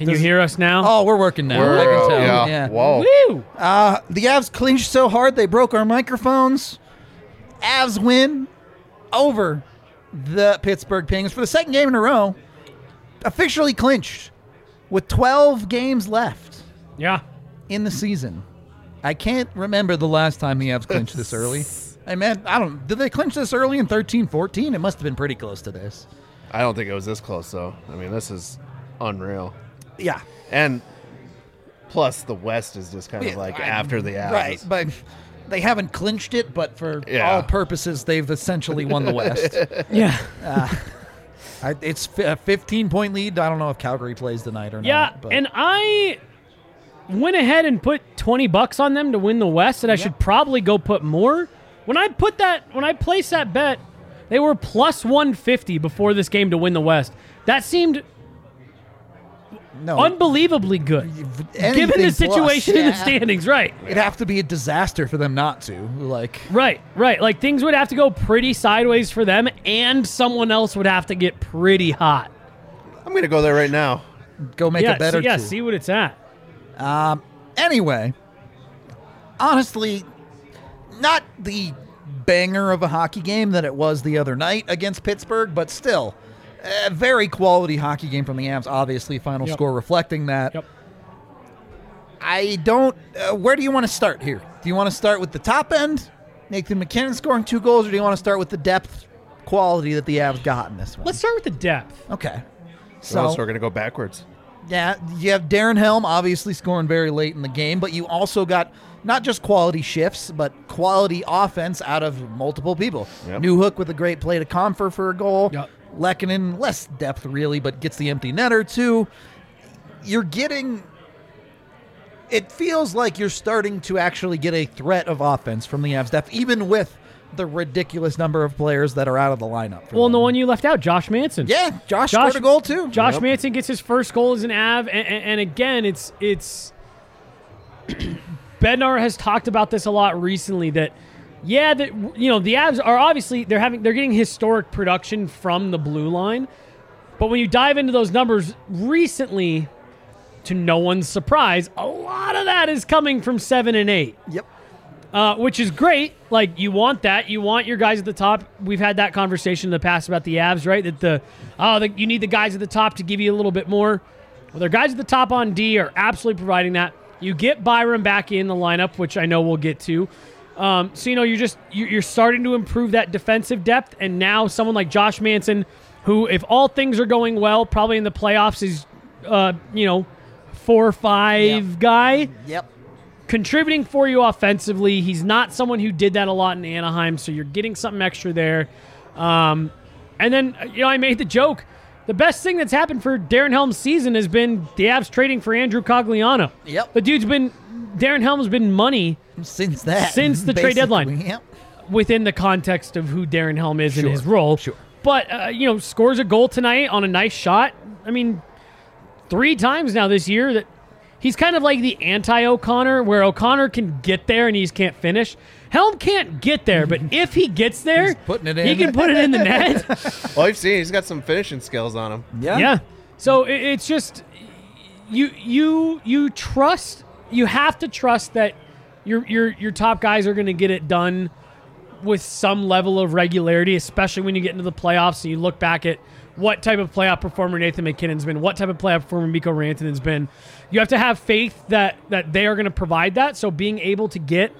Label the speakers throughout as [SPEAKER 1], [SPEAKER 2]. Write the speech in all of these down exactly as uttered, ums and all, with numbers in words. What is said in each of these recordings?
[SPEAKER 1] Can you hear us now?
[SPEAKER 2] Oh, we're working now.
[SPEAKER 3] We're,
[SPEAKER 2] I can tell.
[SPEAKER 3] yeah.
[SPEAKER 2] Yeah.
[SPEAKER 3] Whoa.
[SPEAKER 1] Woo!
[SPEAKER 2] Uh, the Avs clinched so hard they broke our microphones. Avs win over the Pittsburgh Penguins for the second game in a row. Officially clinched with twelve games left
[SPEAKER 1] Yeah.
[SPEAKER 2] in the season. I can't remember the last time the Avs clinched this early. I mean, I don't. Did they clinch this early in thirteen fourteen? It must have been pretty close to this.
[SPEAKER 3] I don't think it was this close, though. I mean, this is unreal.
[SPEAKER 2] Yeah.
[SPEAKER 3] And plus, the West is just kind of like
[SPEAKER 2] I-
[SPEAKER 3] after the Avs.
[SPEAKER 2] Right, but they haven't clinched it, but for
[SPEAKER 3] Yeah.
[SPEAKER 2] all purposes, they've essentially won the West.
[SPEAKER 1] Yeah.
[SPEAKER 2] I, it's a fifteen-point lead. I don't know if Calgary plays tonight or
[SPEAKER 1] Yeah,
[SPEAKER 2] not. But
[SPEAKER 1] and I went ahead and put twenty bucks on them to win the West, and I should probably go put more. When I put that, when I placed that bet, they were plus one fifty before this game to win the West. That seemed
[SPEAKER 2] no,
[SPEAKER 1] unbelievably good,
[SPEAKER 2] anything
[SPEAKER 1] given the
[SPEAKER 2] plus,
[SPEAKER 1] situation in the
[SPEAKER 2] yeah.
[SPEAKER 1] standings. Right,
[SPEAKER 2] It'd have to be a disaster for them not to. Like,
[SPEAKER 1] right, right. Like things would have to go pretty sideways for them, and someone else would have to get pretty hot.
[SPEAKER 3] I'm going to go there right now.
[SPEAKER 2] go make
[SPEAKER 1] yeah,
[SPEAKER 2] it better.
[SPEAKER 1] see, yeah.
[SPEAKER 2] too.
[SPEAKER 1] See what it's at.
[SPEAKER 2] Anyway, honestly, not the banger of a hockey game that it was the other night against Pittsburgh, but still, a very quality hockey game from the Avs. Obviously, final
[SPEAKER 1] Yep.
[SPEAKER 2] score reflecting that.
[SPEAKER 1] Yep.
[SPEAKER 2] I don't. Uh, where do you want to start here? Do you want to start with the top end, Nathan MacKinnon scoring two goals, or do you want to start with the depth quality that the Avs got in this one?
[SPEAKER 1] Let's start with the depth.
[SPEAKER 2] Okay.
[SPEAKER 3] So,
[SPEAKER 2] So,
[SPEAKER 3] we're going to go backwards.
[SPEAKER 2] yeah, you have Darren Helm obviously scoring very late in the game, but you also got not just quality shifts, but quality offense out of multiple people.
[SPEAKER 3] Yep.
[SPEAKER 2] New Hook with a great play to Comfer for a goal.
[SPEAKER 1] Yep.
[SPEAKER 2] Lehkonen, less depth really, but gets the empty netter too. You're getting... It feels like you're starting to actually get a threat of offense from the Avs depth, even with the ridiculous number of players that are out of the lineup. for
[SPEAKER 1] Well, and the
[SPEAKER 2] them.
[SPEAKER 1] one you left out, Josh Manson.
[SPEAKER 2] Yeah, Josh,
[SPEAKER 1] Josh-
[SPEAKER 2] scored a goal too.
[SPEAKER 1] Josh
[SPEAKER 3] Yep.
[SPEAKER 1] Manson gets his first goal as an Av, and, and, and again, it's it's. Bednar has talked about this a lot recently. That, yeah, that you know the Avs are obviously they're having they're getting historic production from the blue line, but when you dive into those numbers recently, to no one's surprise, a lot of that is coming from seven and eight.
[SPEAKER 2] Yep.
[SPEAKER 1] Uh, which is great. Like, you want that. You want your guys at the top. We've had that conversation in the past about the Avs, right? That the oh, the, you need the guys at the top to give you a little bit more. Well, their guys at the top on D are absolutely providing that. You get Byram back in the lineup, which I know we'll get to. Um, so, you know, you're just you- you're starting to improve that defensive depth. And now someone like Josh Manson, who, if all things are going well, probably in the playoffs is, uh, you know, four or five
[SPEAKER 2] Yep.
[SPEAKER 1] guy.
[SPEAKER 2] Yep.
[SPEAKER 1] Contributing for you offensively. He's not someone who did that a lot in Anaheim, so you're getting something extra there. Um, and then, you know, I made the joke. The best thing that's happened for Darren Helm's season has been the Avs trading for Andrew Cogliano.
[SPEAKER 2] Yep.
[SPEAKER 1] The dude's been, Darren Helm's been money
[SPEAKER 2] Since that.
[SPEAKER 1] Since the trade deadline.
[SPEAKER 2] basically, Yep.
[SPEAKER 1] within the context of who Darren Helm is
[SPEAKER 2] Sure,
[SPEAKER 1] in his role.
[SPEAKER 2] sure.
[SPEAKER 1] But, uh, you know, scores a goal tonight on a nice shot. I mean, three times now this year that he's kind of like the anti-O'Connor, where O'Connor can get there and he just can't finish. Helm can't get there, but if he gets there,
[SPEAKER 2] He's putting it
[SPEAKER 1] he
[SPEAKER 2] in.
[SPEAKER 1] can put it in the net.
[SPEAKER 3] Well, you've seen he's got some finishing skills on him.
[SPEAKER 2] Yeah.
[SPEAKER 1] Yeah. So it, it's just you you you trust you have to trust that your your your top guys are going to get it done with some level of regularity, especially when you get into the playoffs and you look back at what type of playoff performer Nathan MacKinnon's been, what type of playoff performer Mikko Rantanen's been. You have to have faith that that they are going to provide that. So being able to get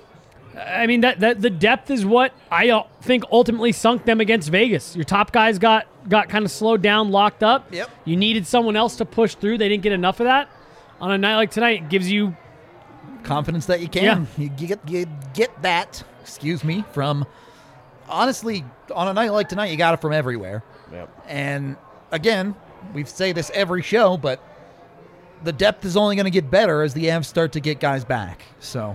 [SPEAKER 1] I mean, that, that the depth is what I uh, think ultimately sunk them against Vegas. Your top guys got, got kind of slowed down, locked up.
[SPEAKER 2] Yep.
[SPEAKER 1] You needed someone else to push through. They didn't get enough of that. On a night like tonight, it gives you...
[SPEAKER 2] Confidence that you can.
[SPEAKER 1] Yeah.
[SPEAKER 2] You get you get that, excuse me, from... Honestly, on a night like tonight, you got it from everywhere.
[SPEAKER 3] Yep.
[SPEAKER 2] And again, we say this every show, but the depth is only going to get better as the Avs start to get guys back. So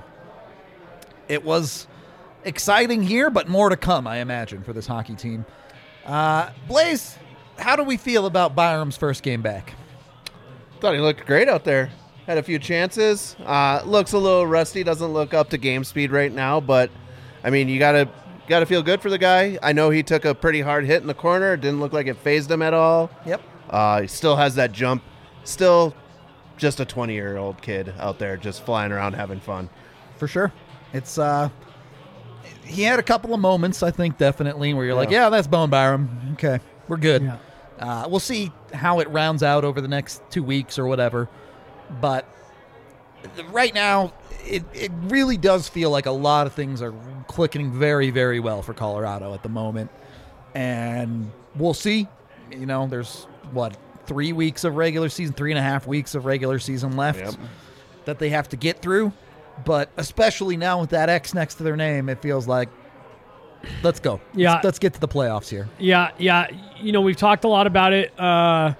[SPEAKER 2] it was exciting here, but more to come, I imagine, for this hockey team. Uh, Blaze, how do we feel about Byram's first game back?
[SPEAKER 3] Thought he looked great out there. Had a few chances. Uh, looks a little rusty. Doesn't look up to game speed right now, but I mean, you gotta gotta feel good for the guy. I know he took a pretty hard hit in the corner. It didn't look like it phased him at all.
[SPEAKER 2] Yep.
[SPEAKER 3] Uh, he still has that jump still just a twenty-year-old kid out there just flying around having fun.
[SPEAKER 2] For sure. It's uh he had a couple of moments, I think, definitely, where you're like,
[SPEAKER 3] Yeah.
[SPEAKER 2] yeah, that's Bone Byram. Okay, we're good.
[SPEAKER 1] Yeah.
[SPEAKER 2] Uh, we'll see how it rounds out over the next two weeks or whatever. But right now, it, it really does feel like a lot of things are clicking very, very well for Colorado at the moment. And we'll see. You know, there's, what, three weeks of regular season, three and a half weeks of regular season left
[SPEAKER 3] Yep.
[SPEAKER 2] that they have to get through. But especially now with that X next to their name, it feels like, let's go.
[SPEAKER 1] Yeah.
[SPEAKER 2] Let's, let's get to the playoffs here.
[SPEAKER 1] Yeah, yeah. You know, we've talked a lot about it. Uh,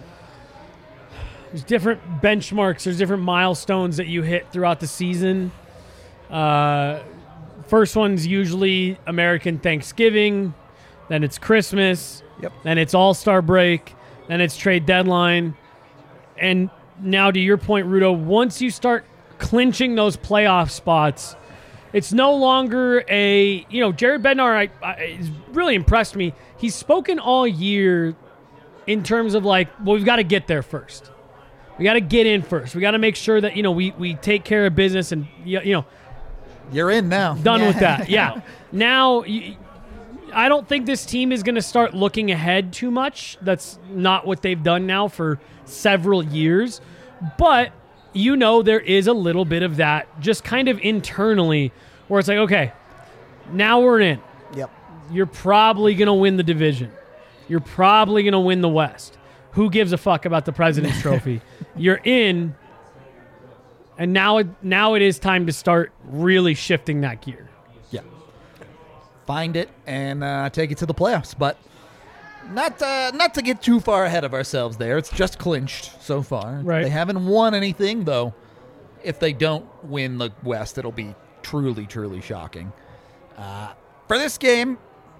[SPEAKER 1] there's different benchmarks. There's different milestones that you hit throughout the season. Uh, first one's usually American Thanksgiving. Then it's Christmas.
[SPEAKER 2] Yep.
[SPEAKER 1] Then it's All-Star break. Then it's trade deadline. And now to your point, Rudo, once you start clinching those playoff spots, it's no longer a, you know, Jared Bednar I, I, has really impressed me. He's spoken all year in terms of like, well, we've got to get there first. We got to get in first. We got to make sure that, you know, we, we take care of business and, you you know,
[SPEAKER 2] You're in now.
[SPEAKER 1] done
[SPEAKER 2] Yeah.
[SPEAKER 1] with that. Yeah. Now, you, I don't think this team is going to start looking ahead too much. That's not what they've done now for several years. But you know there is a little bit of that just kind of internally where it's like, okay, now we're in.
[SPEAKER 2] Yep.
[SPEAKER 1] You're probably going to win the division. You're probably going to win the West. Who gives a fuck about the President's Trophy? You're in, and now it, now it is time to start really shifting that gear.
[SPEAKER 2] Yeah. Find it and uh, take it to the playoffs. But not uh, not to get too far ahead of ourselves there. It's just clinched so far.
[SPEAKER 1] Right.
[SPEAKER 2] They haven't won anything, though. If they don't win the West, it'll be truly, truly shocking. Uh, for this game,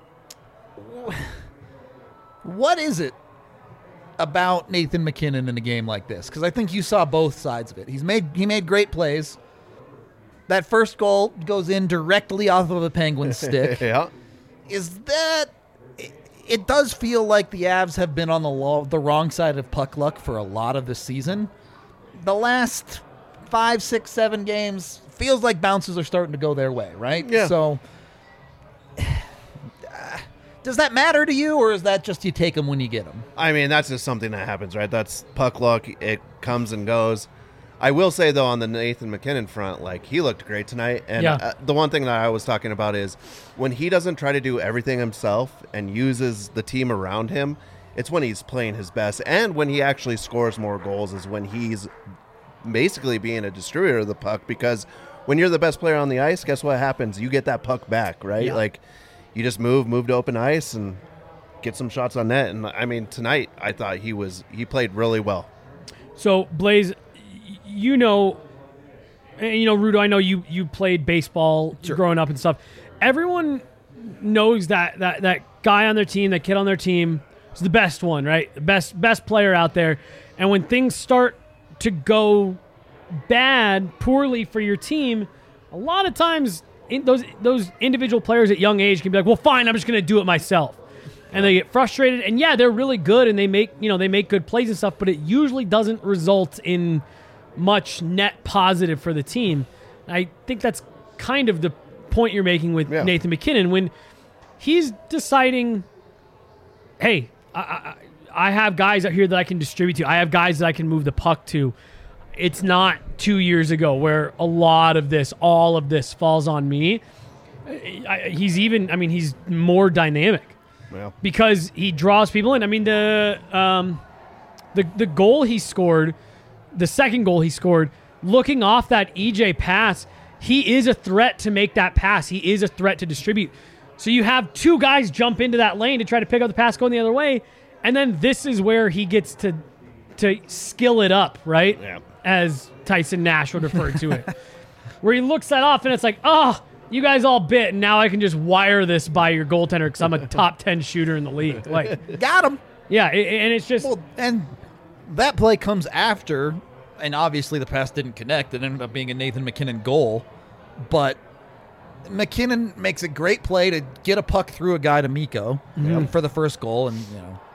[SPEAKER 2] what is it about Nathan MacKinnon in a game like this? Because I think you saw both sides of it. He's made he made great plays. That first goal goes in directly off of a Penguins stick.
[SPEAKER 3] Yeah.
[SPEAKER 2] Is that... It, it does feel like the Avs have been on the lo- the wrong side of puck luck for a lot of the season. The last five, six, seven games feels like bounces are starting to go their way, right?
[SPEAKER 3] Yeah.
[SPEAKER 2] So, uh, does that matter to you, or is that just you take them when you get them?
[SPEAKER 3] I mean, that's just something that happens, right? That's puck luck. It comes and goes. I will say, though, on the Nathan MacKinnon front, like, he looked great tonight. And
[SPEAKER 1] Yeah.
[SPEAKER 3] uh, the one thing that I was talking about is when he doesn't try to do everything himself and uses the team around him, it's when he's playing his best. And when he actually scores more goals is when he's basically being a distributor of the puck, because when you're the best player on the ice, guess what happens? You get that puck back, right?
[SPEAKER 2] Yeah.
[SPEAKER 3] Like, you just move, move to open ice and get some shots on net. And, I mean, tonight I thought he was he played really well.
[SPEAKER 1] So, Blaze, y- you know, and, you know, Rudo, I know you you played baseball
[SPEAKER 2] Sure.
[SPEAKER 1] growing up and stuff. Everyone knows that that that guy on their team, that kid on their team, is the best one, right? The best best player out there. And when things start to go bad, poorly for your team, a lot of times in those those individual players at young age can be like, well, fine, I'm just going to do it myself. And they get frustrated. And yeah, they're really good and they make, you know, they make good plays and stuff, but it usually doesn't result in much net positive for the team. I think that's kind of the point you're making with
[SPEAKER 3] Yeah.
[SPEAKER 1] Nathan MacKinnon when he's deciding, hey, I, I, I have guys out here that I can distribute to. I have guys that I can move the puck to. It's not two years ago where a lot of this, all of this falls on me. I, he's even, I mean, he's more dynamic
[SPEAKER 3] Well,
[SPEAKER 1] because he draws people in. I mean, the um, the the goal he scored, the second goal he scored, looking off that E J pass, he is a threat to make that pass. He is a threat to distribute. So you have two guys jump into that lane to try to pick up the pass going the other way, and then this is where he gets to to skill it up, right?
[SPEAKER 3] Yeah.
[SPEAKER 1] As Tyson Nash would refer to it, where he looks that off and it's like, oh, you guys all bit, and now I can just wire this by your goaltender because I'm a top ten shooter in the league. Like,
[SPEAKER 2] Got him.
[SPEAKER 1] yeah, it, and it's just
[SPEAKER 2] Well, and that play comes after, and obviously the pass didn't connect. It ended up being a Nathan MacKinnon goal. But McKinnon makes a great play to get a puck through a guy to Miko for the first goal, and you know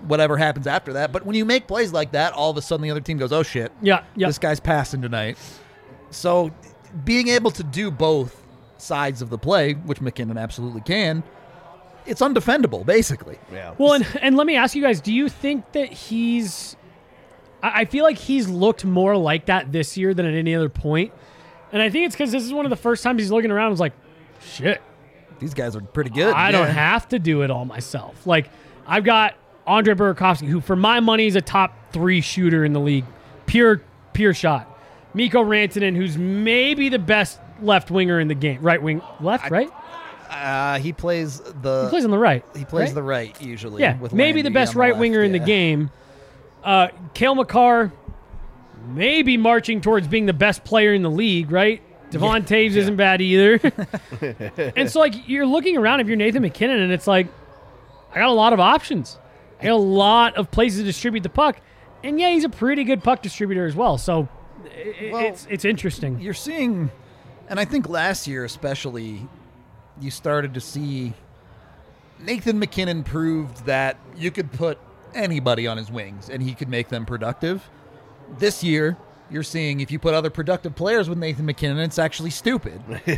[SPEAKER 2] whatever happens after that. But when you make plays like that, all of a sudden the other team goes, oh, shit,
[SPEAKER 1] Yeah, yeah.
[SPEAKER 2] this guy's passing tonight. So being able to do both sides of the play, which McKinnon absolutely can, it's undefendable, basically.
[SPEAKER 3] Yeah.
[SPEAKER 1] Well, and, and let me ask you guys, do you think that he's I I feel like he's looked more like that this year than at any other point. And I think it's because this is one of the first times he's looking around and was like, shit,
[SPEAKER 2] These guys are pretty good.
[SPEAKER 1] I
[SPEAKER 2] yeah.
[SPEAKER 1] don't have to do it all myself. Like, I've got Andre Burakovsky, who for my money is a top three shooter in the league. Pure, pure shot. Mikko Rantanen, who's maybe the best left winger in the game. Right wing, left, right?
[SPEAKER 2] Uh, he plays the
[SPEAKER 1] He plays on the right.
[SPEAKER 2] he plays
[SPEAKER 1] right?
[SPEAKER 2] the right usually.
[SPEAKER 1] Yeah,
[SPEAKER 2] with
[SPEAKER 1] maybe
[SPEAKER 2] Landy
[SPEAKER 1] the best
[SPEAKER 2] on the
[SPEAKER 1] right
[SPEAKER 2] left,
[SPEAKER 1] winger in the
[SPEAKER 2] yeah.
[SPEAKER 1] game. Uh, Cale Makar, maybe marching towards being the best player in the league, right? Devon Taves isn't bad either. And so, like, you're looking around if you're Nathan McKinnon, and it's like, I got a lot of options. I got a lot of places to distribute the puck. And, yeah, he's a pretty good puck distributor as well. So, i
[SPEAKER 2] Well,
[SPEAKER 1] it's it's interesting.
[SPEAKER 2] You're seeing, and I think last year especially, you started to see Nathan McKinnon proved that you could put anybody on his wings and he could make them productive. This year, you're seeing if you put other productive players with Nathan McKinnon, it's actually stupid.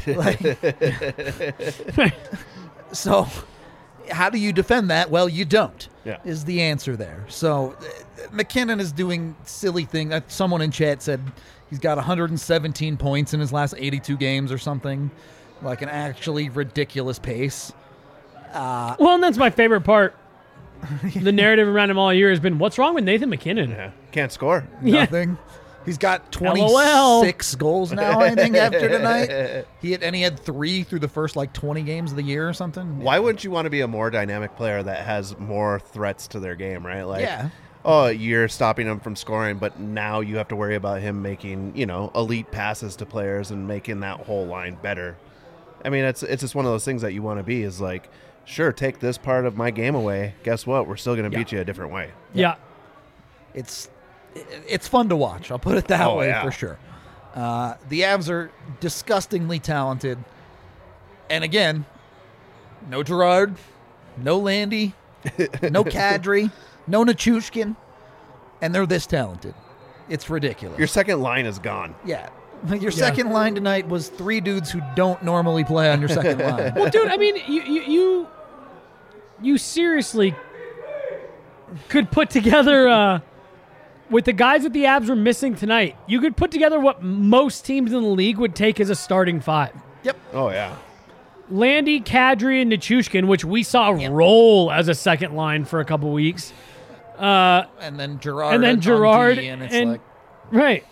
[SPEAKER 2] Like, so, how do you defend that? Well, you don't.
[SPEAKER 3] Yeah.
[SPEAKER 2] Is the answer there. So, uh, McKinnon is doing silly things. Uh, someone in chat said he's got one hundred seventeen points in his last eighty-two games or something, like an actually ridiculous pace.
[SPEAKER 1] Well, and that's my favorite part. The narrative around him all year has been, what's wrong with Nathan McKinnon?
[SPEAKER 3] Yeah. Can't score.
[SPEAKER 1] Yeah.
[SPEAKER 2] Nothing. He's got twenty-six
[SPEAKER 1] LOL.
[SPEAKER 2] goals now, I think, after tonight. He had, and he had three through the first like twenty games of the year or something.
[SPEAKER 3] Why wouldn't you want to be a more dynamic player that has more threats to their game, right? Like,
[SPEAKER 2] Yeah.
[SPEAKER 3] oh, you're stopping him from scoring, but now you have to worry about him making, you know, elite passes to players and making that whole line better. I mean, it's it's just one of those things that you want to be is like, sure, take this part of my game away. Guess what? We're still going to
[SPEAKER 1] Yeah.
[SPEAKER 3] beat you a different way.
[SPEAKER 1] Yeah.
[SPEAKER 2] It's it's fun to watch. I'll put it that
[SPEAKER 3] Oh,
[SPEAKER 2] way
[SPEAKER 3] yeah.
[SPEAKER 2] for sure. Uh, the Avs are disgustingly talented, and again, no Gerard, no Landy, no Kadri, no Nichushkin, and they're this talented. It's ridiculous.
[SPEAKER 3] Your second line is gone.
[SPEAKER 2] yeah. Your second line tonight was three dudes who don't normally play on your second line.
[SPEAKER 1] Well, dude, I mean, you, you, you, you seriously could put together, uh, with the guys that the Avs were missing tonight, you could put together what most teams in the league would take as a starting five.
[SPEAKER 2] Yep.
[SPEAKER 3] Oh, yeah.
[SPEAKER 1] Landy, Kadri, and Nichushkin, which we saw roll as a second line for a couple weeks. Uh,
[SPEAKER 2] And then Gerard.
[SPEAKER 1] and then
[SPEAKER 2] on
[SPEAKER 1] Gerard,
[SPEAKER 2] D, and it's
[SPEAKER 1] and
[SPEAKER 2] like
[SPEAKER 1] right,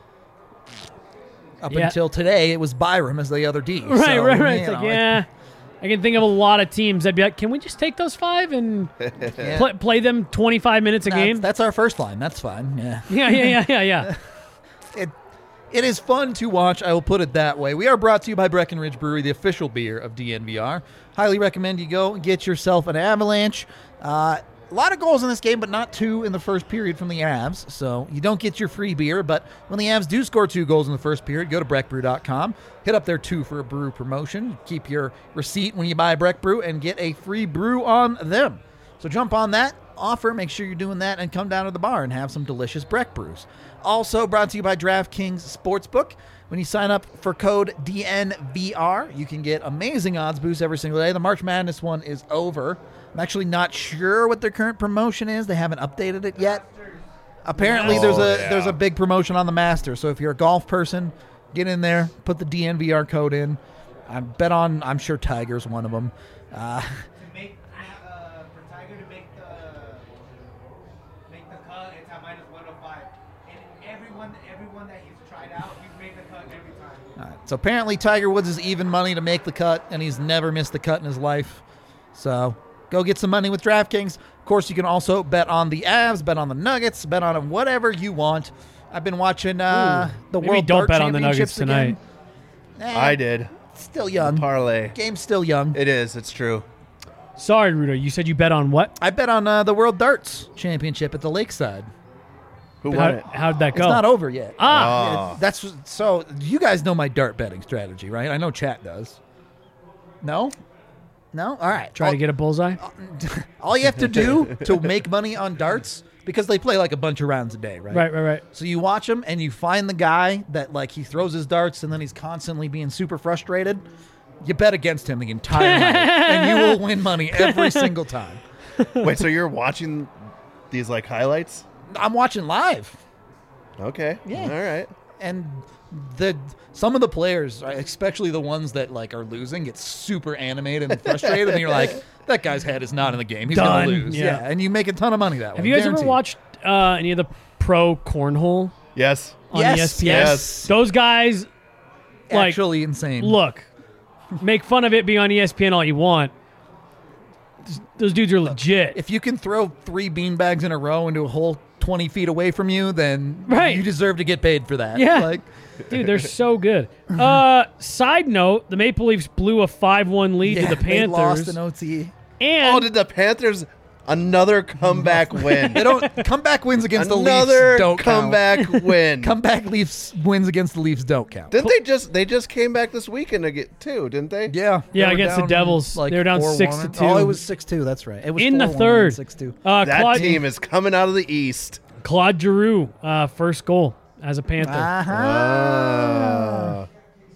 [SPEAKER 2] up
[SPEAKER 1] yeah.
[SPEAKER 2] until today, it was Byram as the other D.
[SPEAKER 1] right,
[SPEAKER 2] So,
[SPEAKER 1] right, right.
[SPEAKER 2] you
[SPEAKER 1] It's like,
[SPEAKER 2] know,
[SPEAKER 1] yeah, I can think of a lot of teams that'd be like, can we just take those five and
[SPEAKER 2] yeah.
[SPEAKER 1] play, play them twenty-five minutes a
[SPEAKER 2] That's-
[SPEAKER 1] game?
[SPEAKER 2] That's our first line. That's fine. Yeah.
[SPEAKER 1] Yeah, yeah, yeah, yeah, yeah.
[SPEAKER 2] It it is fun to watch. I will put it that way. We are brought to you by Breckenridge Brewery, the official beer of D N V R. Highly recommend you go and get yourself an Avalanche. Uh, a lot of goals in this game, but not two in the first period from the Avs. So you don't get your free beer. But when the Avs do score two goals in the first period, go to breck brew dot com. Hit up their two for a brew promotion. Keep your receipt when you buy Breck Brew and get a free brew on them. So jump on that offer. Make sure you're doing that and come down to the bar and have some delicious Breck Brews. Also brought to you by DraftKings Sportsbook. When you sign up for code D N V R, you can get amazing odds boosts every single day. The March Madness one is over. I'm actually not sure what their current promotion is. They haven't updated it yet. Apparently,
[SPEAKER 3] Oh,
[SPEAKER 2] there's a
[SPEAKER 3] yeah.
[SPEAKER 2] there's a big promotion on the Masters. So if you're a golf person, get in there, put the D N V R code in. I bet on. I'm sure Tiger's one of them. Uh,
[SPEAKER 4] Make uh, for Tiger to make the make the cut, it's at minus one oh five. And everyone, everyone that he's tried out, he's made the cut every time.
[SPEAKER 2] All right, so apparently Tiger Woods is even money to make the cut, and he's never missed the cut in his life. So go get some money with DraftKings. Of course, you can also bet on the Avs, bet on the Nuggets, bet on whatever you want. I've been watching uh, the
[SPEAKER 1] Maybe
[SPEAKER 2] World
[SPEAKER 1] don't
[SPEAKER 2] Dart
[SPEAKER 1] bet on the
[SPEAKER 2] Championships
[SPEAKER 1] Nuggets
[SPEAKER 2] again. Eh,
[SPEAKER 3] I did.
[SPEAKER 2] Still young.
[SPEAKER 3] Parlay.
[SPEAKER 2] Game's still young.
[SPEAKER 3] It is. It's true.
[SPEAKER 1] Sorry, Rudo. You said you bet on what?
[SPEAKER 2] I bet on uh, the World Darts Championship at the Lakeside.
[SPEAKER 3] Who
[SPEAKER 1] How,
[SPEAKER 3] won it?
[SPEAKER 1] how'd that go?
[SPEAKER 2] It's not over yet.
[SPEAKER 1] Ah,
[SPEAKER 3] Oh.
[SPEAKER 2] That's so. You guys know my dart betting strategy, right? I know chat does. No, No? All right.
[SPEAKER 1] Try
[SPEAKER 2] all,
[SPEAKER 1] to get a bullseye.
[SPEAKER 2] all you have to do to make money on darts, because they play like a bunch of rounds a day, right?
[SPEAKER 1] Right, right, right.
[SPEAKER 2] So you watch him and you find the guy that like he throws his darts and then he's constantly being super frustrated. You bet against him the entire night and you will win money every single time.
[SPEAKER 3] Wait, so you're watching these like highlights?
[SPEAKER 2] I'm watching live.
[SPEAKER 3] Okay.
[SPEAKER 2] Yeah.
[SPEAKER 3] All right.
[SPEAKER 2] And the some of the players, especially the ones that like are losing, get super animated and frustrated and you're like, that guy's head is not in the game. He's
[SPEAKER 1] Done.
[SPEAKER 2] going to lose.
[SPEAKER 1] Yeah.
[SPEAKER 2] Yeah. And you make a ton of money that way.
[SPEAKER 1] Have you guys
[SPEAKER 2] guaranteed.
[SPEAKER 1] ever watched uh, any of the pro cornhole
[SPEAKER 3] Yes.
[SPEAKER 1] on
[SPEAKER 2] Yes,
[SPEAKER 1] E S P N?
[SPEAKER 3] yes.
[SPEAKER 1] Those guys, like,
[SPEAKER 2] Actually insane.
[SPEAKER 1] look, make fun of it being on E S P N all you want. Those dudes are legit.
[SPEAKER 2] If you can throw three beanbags in a row into a hole twenty feet away from you, then
[SPEAKER 1] Right.
[SPEAKER 2] you deserve to get paid for that.
[SPEAKER 1] Yeah.
[SPEAKER 2] Like,
[SPEAKER 1] Dude, they're so good. Uh, side note, the Maple Leafs blew a five one lead
[SPEAKER 2] yeah,
[SPEAKER 1] to the
[SPEAKER 2] they
[SPEAKER 1] Panthers.
[SPEAKER 2] lost in O T.
[SPEAKER 1] and
[SPEAKER 3] Oh, did the Panthers another comeback win?
[SPEAKER 2] They don't comeback wins against the
[SPEAKER 3] another
[SPEAKER 2] Leafs don't
[SPEAKER 3] comeback
[SPEAKER 2] count.
[SPEAKER 3] win.
[SPEAKER 2] Comeback Leafs wins against the Leafs don't count.
[SPEAKER 3] Didn't they just they just came back this weekend again too? Didn't they?
[SPEAKER 2] Yeah.
[SPEAKER 1] Yeah,
[SPEAKER 2] they were
[SPEAKER 1] against the
[SPEAKER 2] down,
[SPEAKER 1] Devils.
[SPEAKER 2] Like
[SPEAKER 1] They were down
[SPEAKER 2] four
[SPEAKER 1] six
[SPEAKER 2] one.
[SPEAKER 1] to two.
[SPEAKER 2] Oh, it was six two. That's right. It was
[SPEAKER 1] in the
[SPEAKER 2] four one
[SPEAKER 1] third,
[SPEAKER 2] and six two.
[SPEAKER 1] uh,
[SPEAKER 3] That
[SPEAKER 1] Claude,
[SPEAKER 3] team is coming out of the East.
[SPEAKER 1] Claude Giroux, uh, first goal as a Panther.
[SPEAKER 2] Uh-huh.
[SPEAKER 3] Uh,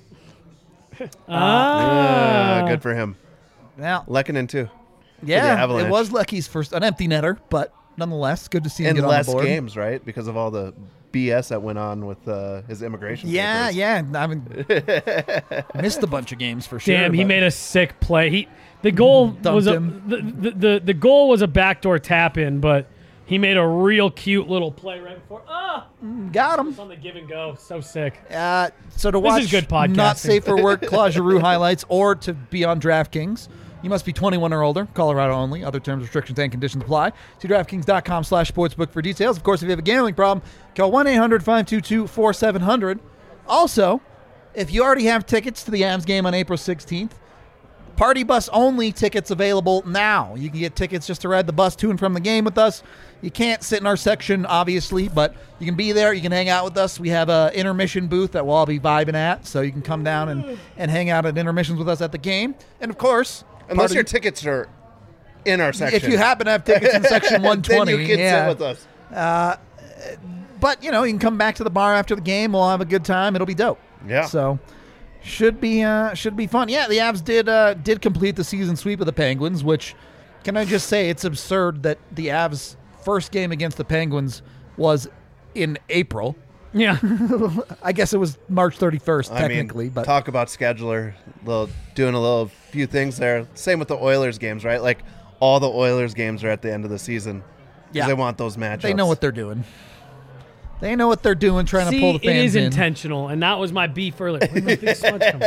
[SPEAKER 1] Ah.
[SPEAKER 3] yeah, good for him.
[SPEAKER 2] Now,
[SPEAKER 3] Lekanen too.
[SPEAKER 2] yeah,
[SPEAKER 3] Avalanche.
[SPEAKER 2] it was Lecky's first, an empty netter, but nonetheless, good to see him
[SPEAKER 3] In
[SPEAKER 2] get
[SPEAKER 3] less
[SPEAKER 2] on the board.
[SPEAKER 3] games, right? Because of all the B S that went on with uh, his immigration.
[SPEAKER 2] Yeah,
[SPEAKER 3] papers.
[SPEAKER 2] yeah. I mean, missed a bunch of games for sure.
[SPEAKER 1] Damn, he
[SPEAKER 2] but-
[SPEAKER 1] made a sick play. He the goal
[SPEAKER 2] Dumped
[SPEAKER 1] was a,
[SPEAKER 2] him.
[SPEAKER 1] the, the the the goal was a backdoor tap in, but he made a real cute little play right before. Ah,
[SPEAKER 2] got him.
[SPEAKER 1] it's on the give and go. So sick.
[SPEAKER 2] Uh, so to
[SPEAKER 1] This
[SPEAKER 2] watch
[SPEAKER 1] is good podcasting.
[SPEAKER 2] not safe for work Claude Giroux highlights or to be on DraftKings, you must be twenty-one or older, Colorado only. Other terms, restrictions, and conditions apply. See DraftKings.com slash sportsbook for details. Of course, if you have a gambling problem, call one eight hundred five two two four seven zero zero. Also, if you already have tickets to the Avs game on April sixteenth, Party Bus only tickets available now. You can get tickets just to ride the bus to and from the game with us. You can't sit in our section, obviously, but you can be there. You can hang out with us. We have a intermission booth that we'll all be vibing at, so you can come down and, and hang out at intermissions with us at the game. And, of course,
[SPEAKER 3] Unless
[SPEAKER 2] part
[SPEAKER 3] your
[SPEAKER 2] of-
[SPEAKER 3] tickets are in our section.
[SPEAKER 2] if you happen to have tickets in section one twenty,
[SPEAKER 3] then you can
[SPEAKER 2] yeah.
[SPEAKER 3] sit with us.
[SPEAKER 2] But, you know, you can come back to the bar after the game. We'll have a good time. It'll be dope.
[SPEAKER 3] Yeah.
[SPEAKER 2] So should be uh, should be fun. Yeah, the Avs did uh, did complete the season sweep of the Penguins, which can I just say it's absurd that the Avs' first game against the Penguins was in April.
[SPEAKER 1] Yeah.
[SPEAKER 2] I guess it was March thirty-first
[SPEAKER 3] I
[SPEAKER 2] technically,
[SPEAKER 3] mean,
[SPEAKER 2] but
[SPEAKER 3] talk about scheduler, little doing a little few things there. Same with the Oilers games, right? Like all the Oilers games are at the end of the season. 'Cause
[SPEAKER 2] Yeah.
[SPEAKER 3] they want those matchups.
[SPEAKER 2] they know what they're doing. They know what they're doing, trying
[SPEAKER 1] See,
[SPEAKER 2] to pull the fans
[SPEAKER 1] it is
[SPEAKER 2] in.
[SPEAKER 1] intentional, and that was my beef earlier. Where did the smudge come from?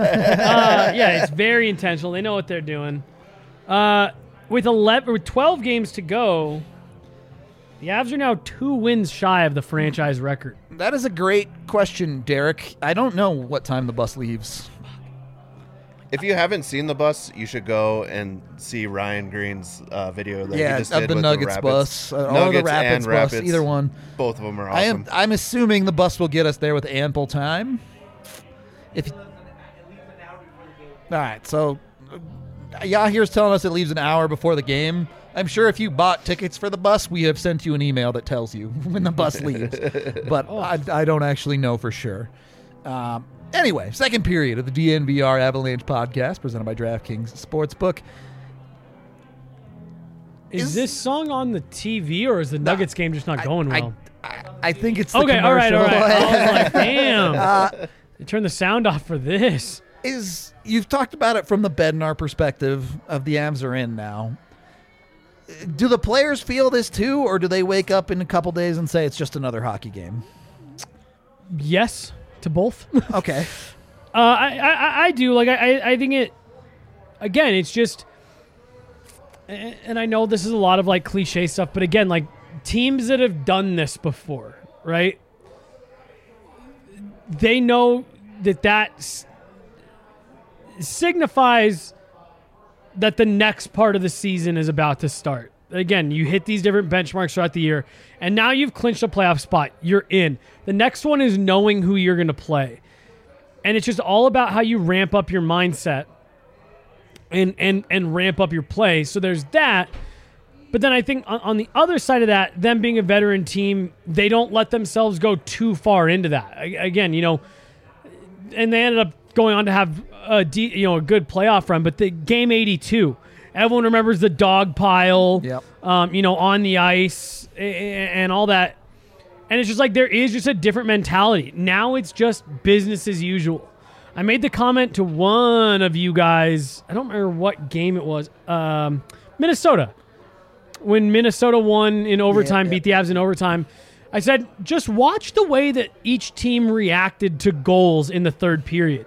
[SPEAKER 1] uh, yeah, it's very intentional. They know what they're doing. Uh, with eleven, with twelve games to go, the Avs are now two wins shy of the franchise record.
[SPEAKER 2] That is a great question, Derek. I don't know what time the bus leaves.
[SPEAKER 3] If you haven't seen the bus, you should go and see Ryan Green's uh, video that
[SPEAKER 2] Yeah,
[SPEAKER 3] he just
[SPEAKER 2] of
[SPEAKER 3] did
[SPEAKER 2] the
[SPEAKER 3] with
[SPEAKER 2] Nuggets
[SPEAKER 3] the
[SPEAKER 2] bus,
[SPEAKER 3] Rapids.
[SPEAKER 2] uh, or the
[SPEAKER 3] Nuggets
[SPEAKER 2] Rapids
[SPEAKER 3] and
[SPEAKER 2] bus,
[SPEAKER 3] Rapids.
[SPEAKER 2] either one.
[SPEAKER 3] Both of them are
[SPEAKER 2] I
[SPEAKER 3] awesome.
[SPEAKER 2] am. I'm assuming the bus will get us there with ample time. If all right, so uh, Yahir's telling us it leaves an hour before the game. I'm sure if you bought tickets for the bus, we have sent you an email that tells you when the bus leaves. But I, I don't actually know for sure. Um, anyway, second period of the D N V R Avalanche podcast presented by DraftKings Sportsbook.
[SPEAKER 1] Is,
[SPEAKER 2] Is-
[SPEAKER 1] this song on the T V, or is the Nuggets game just not going
[SPEAKER 2] I,
[SPEAKER 1] well?
[SPEAKER 2] I, I think it's the
[SPEAKER 1] okay, all right, all right.
[SPEAKER 2] commercial.
[SPEAKER 1] I was like, damn.
[SPEAKER 2] Uh,
[SPEAKER 1] they turned the sound off for this.
[SPEAKER 2] is you've talked about it from the Bednar perspective of the Avs are in now. Do the players feel this too, or do they wake up in a couple days and say it's just another hockey game?
[SPEAKER 1] Yes to both.
[SPEAKER 2] Okay.
[SPEAKER 1] Uh, I, I I do like I I think it. Again, it's just, and I know this is a lot of like cliche stuff, but again, like teams that have done this before, right? They know that that s- signifies that the next part of the season is about to start. Again, you hit these different benchmarks throughout the year, and now you've clinched a playoff spot. You're in. The next one is knowing who you're going to play. And it's just all about how you ramp up your mindset and and and ramp up your play. So there's that. But then I think on, on the other side of that, them being a veteran team, they don't let themselves go too far into that. I, again, you know, and they ended up going on to have a de- you know a good playoff run. But the game eighty-two, everyone remembers the dog pile,
[SPEAKER 2] Yep.
[SPEAKER 1] um, you know, on the ice and, and all that. And it's just like there is just a different mentality. Now it's just business as usual. I made the comment to one of you guys. I don't remember what game it was. Um, Minnesota. When Minnesota won in overtime,
[SPEAKER 2] Yeah,
[SPEAKER 1] beat the Avs in overtime, I said, just watch the way that each team reacted to goals in the third period.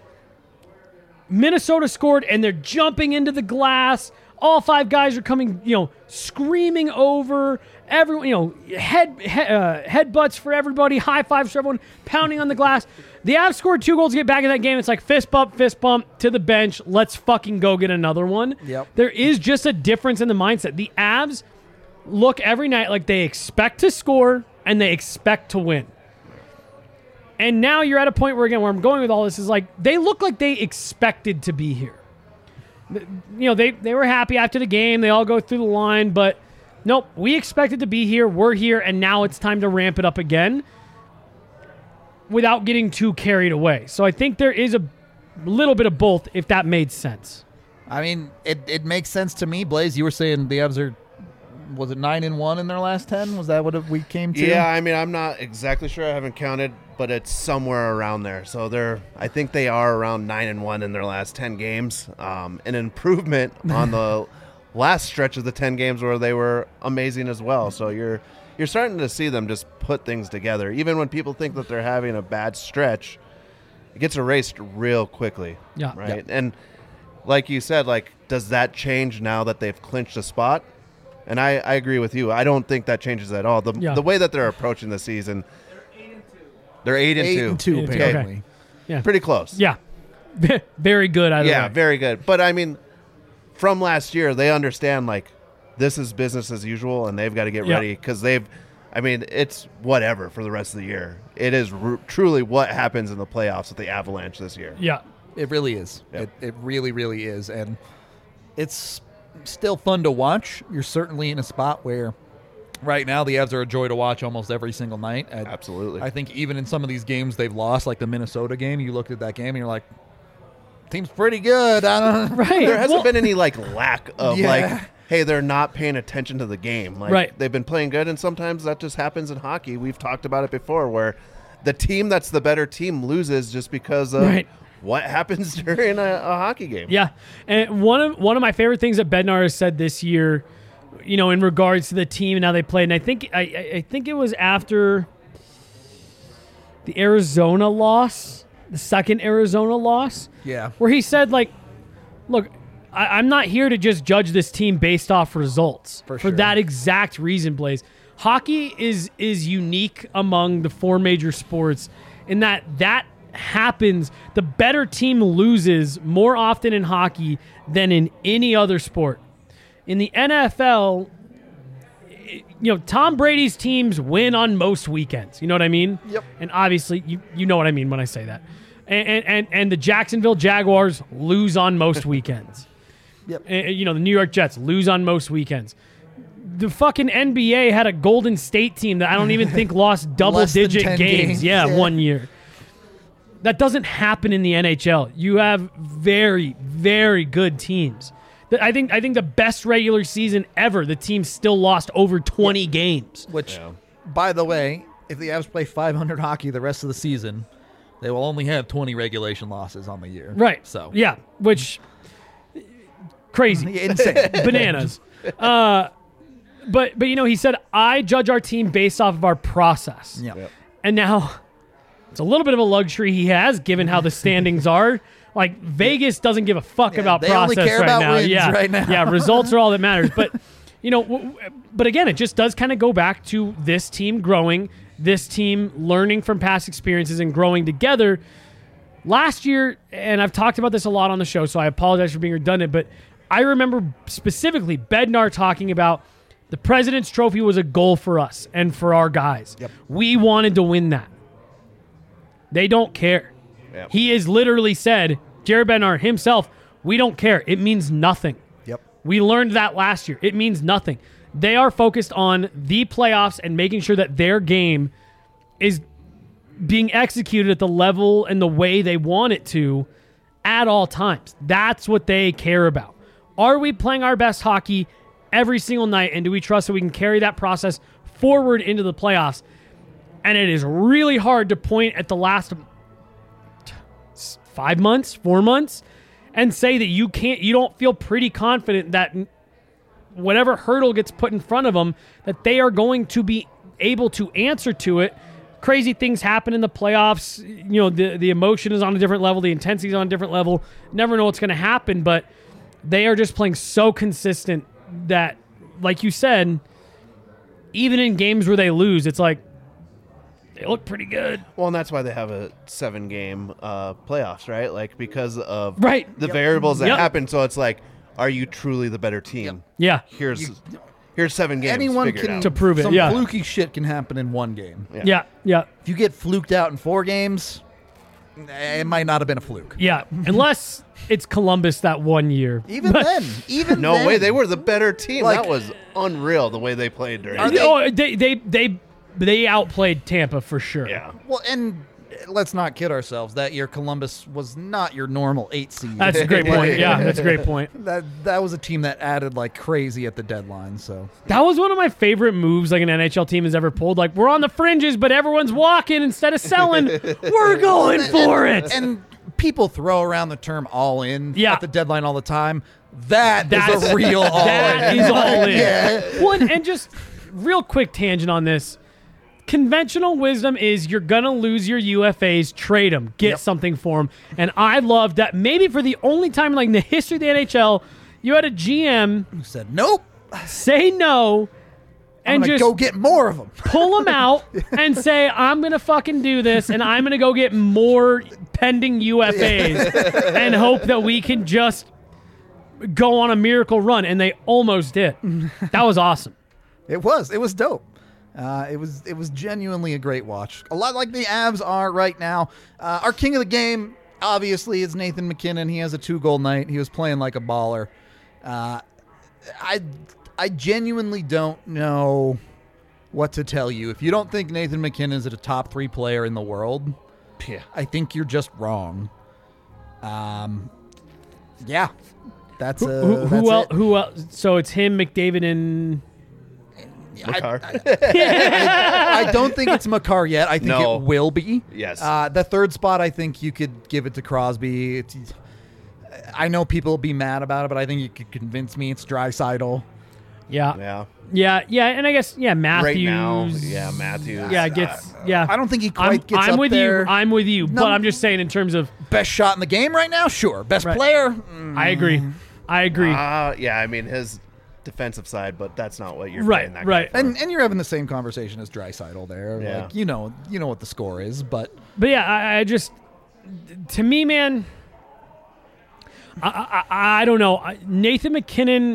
[SPEAKER 1] Minnesota scored, and they're jumping into the glass. All five guys are coming, you know, screaming over everyone, you know, head, head uh, headbutts for everybody, high fives for everyone, pounding on the glass. The Avs scored two goals to get back in that game. It's like fist bump, fist bump to the bench. Let's fucking go get another one.
[SPEAKER 2] Yep.
[SPEAKER 1] There is just a difference in the mindset. The Avs look every night like they expect to score and they expect to win. And now you're at a point where, again, where I'm going with all this is like they look like they expected to be here. You know, they, they were happy after the game. They all go through the line, but nope, we expected to be here. We're here, and now it's time to ramp it up again without getting too carried away. So I think there is a little bit of both, if that made sense.
[SPEAKER 2] I mean, it, it makes sense to me. Blaze, you were saying the Avs are, was it nine and one in their last ten? Was that what we came to?
[SPEAKER 3] Yeah, I mean, I'm not exactly sure. I haven't counted, but it's somewhere around there. So they're, I think they are around nine and one in their last ten games. Um, an improvement on the last stretch of the ten games where they were amazing as well. So you're you're starting to see them just put things together. Even when people think that they're having a bad stretch, it gets erased real quickly.
[SPEAKER 1] Yeah.
[SPEAKER 3] Right. Yeah. And like you said, like, does that change now that they've clinched a spot? And I, I agree with you. I don't think that changes at all. The
[SPEAKER 1] Yeah.
[SPEAKER 3] the way that they're approaching the season, they're eight and
[SPEAKER 2] Eight
[SPEAKER 3] two.
[SPEAKER 2] and two,
[SPEAKER 1] Eight and two,
[SPEAKER 2] apparently.
[SPEAKER 1] okay. Yeah.
[SPEAKER 3] Pretty close.
[SPEAKER 1] Yeah. Very good. Either
[SPEAKER 3] Yeah,
[SPEAKER 1] way.
[SPEAKER 3] very good. But I mean, from last year, they understand like this is business as usual, and they've got to get
[SPEAKER 1] Yeah.
[SPEAKER 3] ready because they've. I mean, it's whatever for the rest of the year. It is r- truly what happens in the playoffs with the Avalanche this year.
[SPEAKER 1] Yeah.
[SPEAKER 2] It really is.
[SPEAKER 3] Yep.
[SPEAKER 2] It, it really, really is. And it's still fun to watch. You're certainly in a spot where right now the Avs are a joy to watch almost every single night. And
[SPEAKER 3] Absolutely.
[SPEAKER 2] I think even in some of these games they've lost, like the Minnesota game, you looked at that game and you're like, team's pretty good. I don't
[SPEAKER 1] Right.
[SPEAKER 3] There hasn't
[SPEAKER 1] Well-
[SPEAKER 3] been any like lack of
[SPEAKER 2] Yeah.
[SPEAKER 3] like, hey, they're not paying attention to the game. Like,
[SPEAKER 1] Right.
[SPEAKER 3] They've been playing good, and sometimes that just happens in hockey. We've talked about it before, where the team that's the better team loses just because of
[SPEAKER 1] Right.
[SPEAKER 3] what happens during a, a hockey game.
[SPEAKER 1] Yeah, and one of one of my favorite things that Bednar has said this year, you know, in regards to the team and how they played, and I think I, I I think it was after the Arizona loss, the second Arizona loss,
[SPEAKER 2] Yeah.
[SPEAKER 1] where he said like, look, I, I'm not here to just judge this team based off results
[SPEAKER 2] For
[SPEAKER 1] for
[SPEAKER 2] sure.
[SPEAKER 1] that exact reason, Blaze. Hockey is is unique among the four major sports in that that happens. The better team loses more often in hockey than in any other sport. In the N F L, you know, Tom Brady's teams win on most weekends. You know what I mean?
[SPEAKER 2] Yep.
[SPEAKER 1] And obviously, you you know what I mean when I say that. And and and, and the Jacksonville Jaguars lose on most weekends.
[SPEAKER 2] Yep.
[SPEAKER 1] And, you know, the New York Jets lose on most weekends. The fucking N B A had a Golden State team that I don't even think lost double-digit
[SPEAKER 2] ten
[SPEAKER 1] games.
[SPEAKER 2] games,
[SPEAKER 1] Yeah,
[SPEAKER 2] yeah.
[SPEAKER 1] one year. That doesn't happen in the N H L. You have very, very good teams. The- I think I think the best regular season ever, the team still lost over twenty games.
[SPEAKER 2] Which,
[SPEAKER 3] Yeah.
[SPEAKER 2] by the way, if the Avs play five hundred hockey the rest of the season, they will only have twenty regulation losses on the year.
[SPEAKER 1] Right.
[SPEAKER 2] So,
[SPEAKER 1] Yeah, which crazy.
[SPEAKER 2] insane.
[SPEAKER 1] Bananas. Uh, but but you know, he said, I judge our team based off of our process.
[SPEAKER 2] Yeah.
[SPEAKER 3] Yep.
[SPEAKER 1] And now it's a little bit of a luxury he has given how the standings are. Like Vegas doesn't give a fuck
[SPEAKER 2] Yeah,
[SPEAKER 1] about
[SPEAKER 2] they only
[SPEAKER 1] process
[SPEAKER 2] care
[SPEAKER 1] right
[SPEAKER 2] about
[SPEAKER 1] now.
[SPEAKER 2] wins
[SPEAKER 1] yeah.
[SPEAKER 2] right now.
[SPEAKER 1] Yeah, results are all that matters. But you know, w- w- but again, it just does kind of go back to this team growing, this team learning from past experiences and growing together. Last year, and I've talked about this a lot on the show, so I apologize for being redundant, but I remember specifically Bednar talking about the President's Trophy was a goal for us and for our guys.
[SPEAKER 2] Yep.
[SPEAKER 1] We wanted to win that. They don't care.
[SPEAKER 3] Yep.
[SPEAKER 1] He has literally said, Jared Bednar himself, We don't care. It means nothing.
[SPEAKER 2] Yep.
[SPEAKER 1] We learned that last year. It means nothing. They are focused on the playoffs and making sure that their game is being executed at the level and the way they want it to at all times. That's what they care about. Are we playing our best hockey every single night, and do we trust that we can carry that process forward into the playoffs? And it is really hard to point at the last five months, four months, and say that you can't, you don't feel pretty confident that whatever hurdle gets put in front of them, that they are going to be able to answer to it. Crazy things happen in the playoffs. You know, the, the emotion is on a different level. The intensity is on a different level. Never know what's going to happen, but they are just playing so consistent that, like you said, even in games where they lose, it's like, they look pretty good.
[SPEAKER 3] Well, and that's why they have a seven-game uh, playoffs, right? Like, because of
[SPEAKER 1] Right.
[SPEAKER 3] the
[SPEAKER 2] Yep.
[SPEAKER 3] variables that
[SPEAKER 1] Yep.
[SPEAKER 3] happen. So it's like, are you truly the better team?
[SPEAKER 1] Yeah.
[SPEAKER 3] Here's here's seven games.
[SPEAKER 2] Anyone
[SPEAKER 3] figure it
[SPEAKER 2] can
[SPEAKER 3] out.
[SPEAKER 1] To prove it,
[SPEAKER 2] Some
[SPEAKER 1] yeah.
[SPEAKER 2] fluky shit can happen in one game.
[SPEAKER 3] Yeah.
[SPEAKER 1] Yeah. Yeah.
[SPEAKER 2] If you get fluked out in four games, eh, it might not have been a fluke.
[SPEAKER 1] Yeah. Unless it's Columbus that one year.
[SPEAKER 2] Even then, even
[SPEAKER 3] No
[SPEAKER 2] then,
[SPEAKER 3] way, they were the better team.
[SPEAKER 2] Like-
[SPEAKER 3] that was unreal the way they played during.
[SPEAKER 2] Are
[SPEAKER 3] the
[SPEAKER 2] they-
[SPEAKER 1] Oh, they they they they outplayed Tampa for sure.
[SPEAKER 3] Yeah.
[SPEAKER 2] Well, and let's not kid ourselves. That year, Columbus was not your normal eight seed.
[SPEAKER 1] That's a great point. Yeah, that's a great point.
[SPEAKER 2] That that was a team that added like crazy at the deadline. So
[SPEAKER 1] That was one of my favorite moves like an N H L team has ever pulled. Like, we're on the fringes, but everyone's walking instead of selling. We're going for it.
[SPEAKER 2] and people throw around the term all in
[SPEAKER 1] Yeah.
[SPEAKER 2] at the deadline all the time. That
[SPEAKER 1] That's
[SPEAKER 2] is a real all
[SPEAKER 1] That
[SPEAKER 2] in.
[SPEAKER 1] is all in.
[SPEAKER 2] Yeah.
[SPEAKER 1] Well, and, and just real quick tangent on this. Conventional wisdom is you're going to lose your U F As, trade them, get
[SPEAKER 2] Yep.
[SPEAKER 1] something for them. And I love that maybe for the only time like in the history of the N H L, you had a G M
[SPEAKER 2] Who said nope?
[SPEAKER 1] say no
[SPEAKER 2] I'm
[SPEAKER 1] and
[SPEAKER 2] gonna
[SPEAKER 1] just
[SPEAKER 2] go get more of them.
[SPEAKER 1] pull them out and say, I'm going to fucking do this and I'm going to go get more pending U F As and hope that we can just go on a miracle run. And they almost did. That was awesome.
[SPEAKER 2] It was. It was dope. Uh, it was. It was genuinely a great watch. A lot like the Avs are right now. Uh, our king of the game, obviously, is Nathan McKinnon. He has a two-goal night. He was playing like a baller. Uh, I, I genuinely don't know what to tell you. If you don't think Nathan McKinnon is a top three player in the world,
[SPEAKER 3] Yeah.
[SPEAKER 2] I think you're just wrong. Um, yeah, that's uh,
[SPEAKER 1] Who, who,
[SPEAKER 2] that's
[SPEAKER 1] who else?
[SPEAKER 2] it.
[SPEAKER 1] Who else? So it's him, McDavid, and
[SPEAKER 3] Makar.
[SPEAKER 2] I don't think it's Makar yet. I think
[SPEAKER 3] No.
[SPEAKER 2] it will be.
[SPEAKER 3] Yes.
[SPEAKER 2] Uh, the third spot, I think you could give it to Crosby. It's, I know people will be mad about it, but I think you could convince me it's Draisaitl.
[SPEAKER 1] yeah,
[SPEAKER 3] yeah.
[SPEAKER 1] yeah, yeah, and I guess yeah, Matthews.
[SPEAKER 3] Right now, yeah, Matthews.
[SPEAKER 1] Yeah, gets yeah.
[SPEAKER 2] I don't think he
[SPEAKER 1] I'm,
[SPEAKER 2] quite gets
[SPEAKER 1] I'm
[SPEAKER 2] up
[SPEAKER 1] with
[SPEAKER 2] there.
[SPEAKER 1] you. I'm with you.
[SPEAKER 2] No.
[SPEAKER 1] But I'm just saying in terms of
[SPEAKER 2] Best shot in the game right now? Sure. Best
[SPEAKER 1] Right.
[SPEAKER 2] player? Mm,
[SPEAKER 1] I agree. I agree.
[SPEAKER 3] Uh, yeah, I mean, his defensive side, but that's not what you're
[SPEAKER 1] Right,
[SPEAKER 3] playing that
[SPEAKER 1] right.
[SPEAKER 3] guy for.
[SPEAKER 2] and and you're having the same conversation as Draisaitl there.
[SPEAKER 3] Yeah.
[SPEAKER 2] Like, you know, you know what the score is, but
[SPEAKER 1] But yeah, I, I just, to me, man, I, I, I don't know. I- Nathan McKinnon,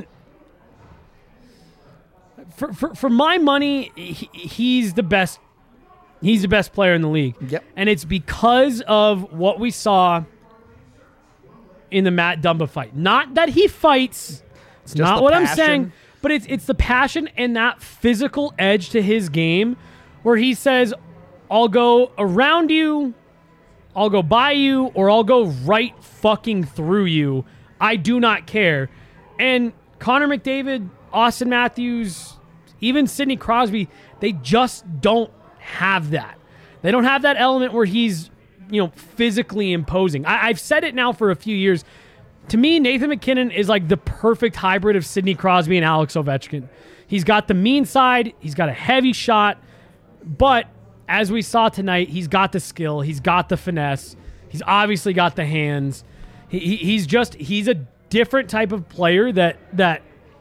[SPEAKER 1] for, for, for my money, he, he's the best. He's the best player in the league.
[SPEAKER 2] Yep.
[SPEAKER 1] And it's because of what we saw in the Matt Dumba fight. Not that he fights. It's
[SPEAKER 2] Just
[SPEAKER 1] not
[SPEAKER 2] the
[SPEAKER 1] what I'm
[SPEAKER 2] passion.
[SPEAKER 1] saying. But it's it's the passion and that physical edge to his game where he says, I'll go around you, I'll go by you, or I'll go right fucking through you. I do not care. And Connor McDavid, Austin Matthews, even Sidney Crosby, they just don't have that. They don't have that element where he's, you know, physically imposing. I, I've said it now for a few years. To me, Nathan McKinnon is like the perfect hybrid of Sidney Crosby and Alex Ovechkin. He's got the mean side, he's got a heavy shot, but as we saw tonight, he's got the skill, he's got the finesse, he's obviously got the hands. He, he, he's just he's a different type of player that that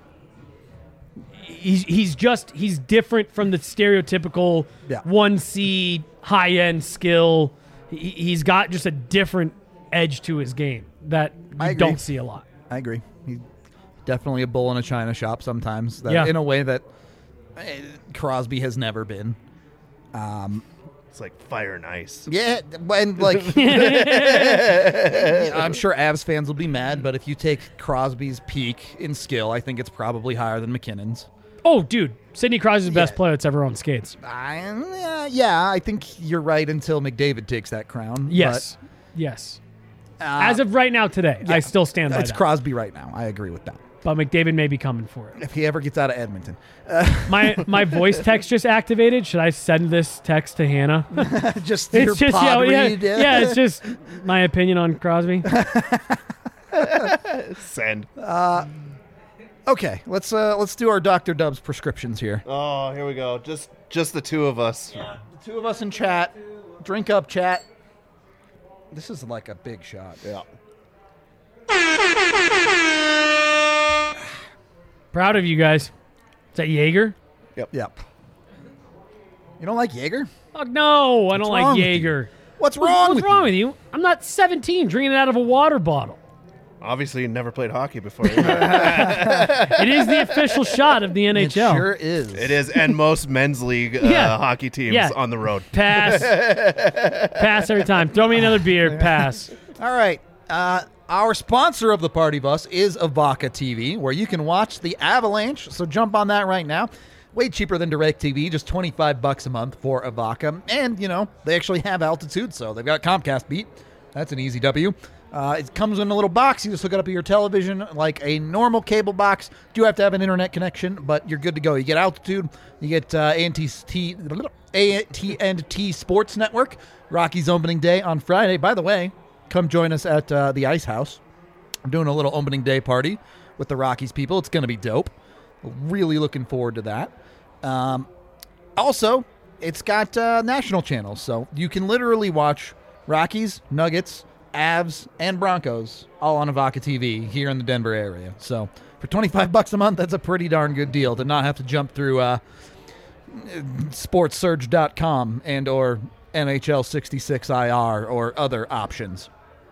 [SPEAKER 1] he's he's just he's different from the stereotypical
[SPEAKER 2] Yeah.
[SPEAKER 1] one C high end skill. He, he's got just a different edge to his game that
[SPEAKER 2] I
[SPEAKER 1] you
[SPEAKER 2] agree.
[SPEAKER 1] don't see a lot.
[SPEAKER 2] I agree. He's definitely a bull in a china shop sometimes. That,
[SPEAKER 1] Yeah.
[SPEAKER 2] In a way that eh, Crosby has never been. Um,
[SPEAKER 3] It's like fire and ice.
[SPEAKER 2] Yeah, and like I'm sure Avs fans will be mad, but if you take Crosby's peak in skill, I think it's probably higher than McKinnon's.
[SPEAKER 1] Oh, dude, Sidney Crosby's the best
[SPEAKER 2] Yeah.
[SPEAKER 1] player that's ever on skates.
[SPEAKER 2] I, uh, yeah, I think you're right until McDavid takes that crown.
[SPEAKER 1] Yes, yes.
[SPEAKER 2] but, uh,
[SPEAKER 1] As of right now, today, I still stand by
[SPEAKER 2] it's
[SPEAKER 1] that.
[SPEAKER 2] Crosby right now. I agree with that.
[SPEAKER 1] But McDavid may be coming for it.
[SPEAKER 2] If he ever gets out of Edmonton,
[SPEAKER 1] My my voice text just activated. Should I send this text to Hannah?
[SPEAKER 2] just your
[SPEAKER 1] It's just
[SPEAKER 2] pod
[SPEAKER 1] yeah, yeah,
[SPEAKER 2] read.
[SPEAKER 1] yeah, it's just my opinion on Crosby.
[SPEAKER 3] Send.
[SPEAKER 2] Okay, let's uh, let's do our Doctor Dubs prescriptions here.
[SPEAKER 3] Oh, here we go. Just just the two of us.
[SPEAKER 2] The two of us in chat. Drink up, chat. This is like a big shot.
[SPEAKER 3] Yeah.
[SPEAKER 1] Proud of you guys. Is that Jaeger?
[SPEAKER 2] Yep. You don't like Jaeger?
[SPEAKER 1] Oh no, I don't
[SPEAKER 2] What's
[SPEAKER 1] like
[SPEAKER 2] wrong with
[SPEAKER 1] Jaeger.
[SPEAKER 2] What's
[SPEAKER 1] What's,
[SPEAKER 2] wrong
[SPEAKER 1] what's
[SPEAKER 2] with
[SPEAKER 1] wrong
[SPEAKER 2] you?
[SPEAKER 1] with you? I'm not seventeen drinking it out of a water bottle.
[SPEAKER 3] Obviously, you never played hockey before.
[SPEAKER 1] It is the official shot of the N H L.
[SPEAKER 2] It sure is.
[SPEAKER 3] It is, and most men's league uh,
[SPEAKER 1] Yeah.
[SPEAKER 3] hockey teams
[SPEAKER 1] Yeah.
[SPEAKER 3] on the road.
[SPEAKER 1] Pass. Pass every time. Throw me another beer. Pass.
[SPEAKER 2] All right. Uh, our sponsor of the Party Bus is Avaca T V, where you can watch the Avalanche. So jump on that right now. Way cheaper than DirecTV, just twenty-five bucks a month for Avaca. And, you know, they actually have altitude, so they've got Comcast Beat. That's an easy W. Uh, it comes in a little box. You just hook it up to your television like a normal cable box. You do have to have an internet connection, but you're good to go. You get altitude. You get uh, A T and T Sports Network. Rockies opening day on Friday. By the way, come join us at uh, the Ice House. I'm doing a little opening day party with the Rockies people. It's going to be dope. Really looking forward to that. Um, also, it's got uh, national channels, so you can literally watch Rockies, Nuggets, Avs, and Broncos all on Avaca T V here in the Denver area. So for twenty-five bucks a month, that's a pretty darn good deal to not have to jump through uh, sports surge dot com and or N H L sixty-six I R or other options.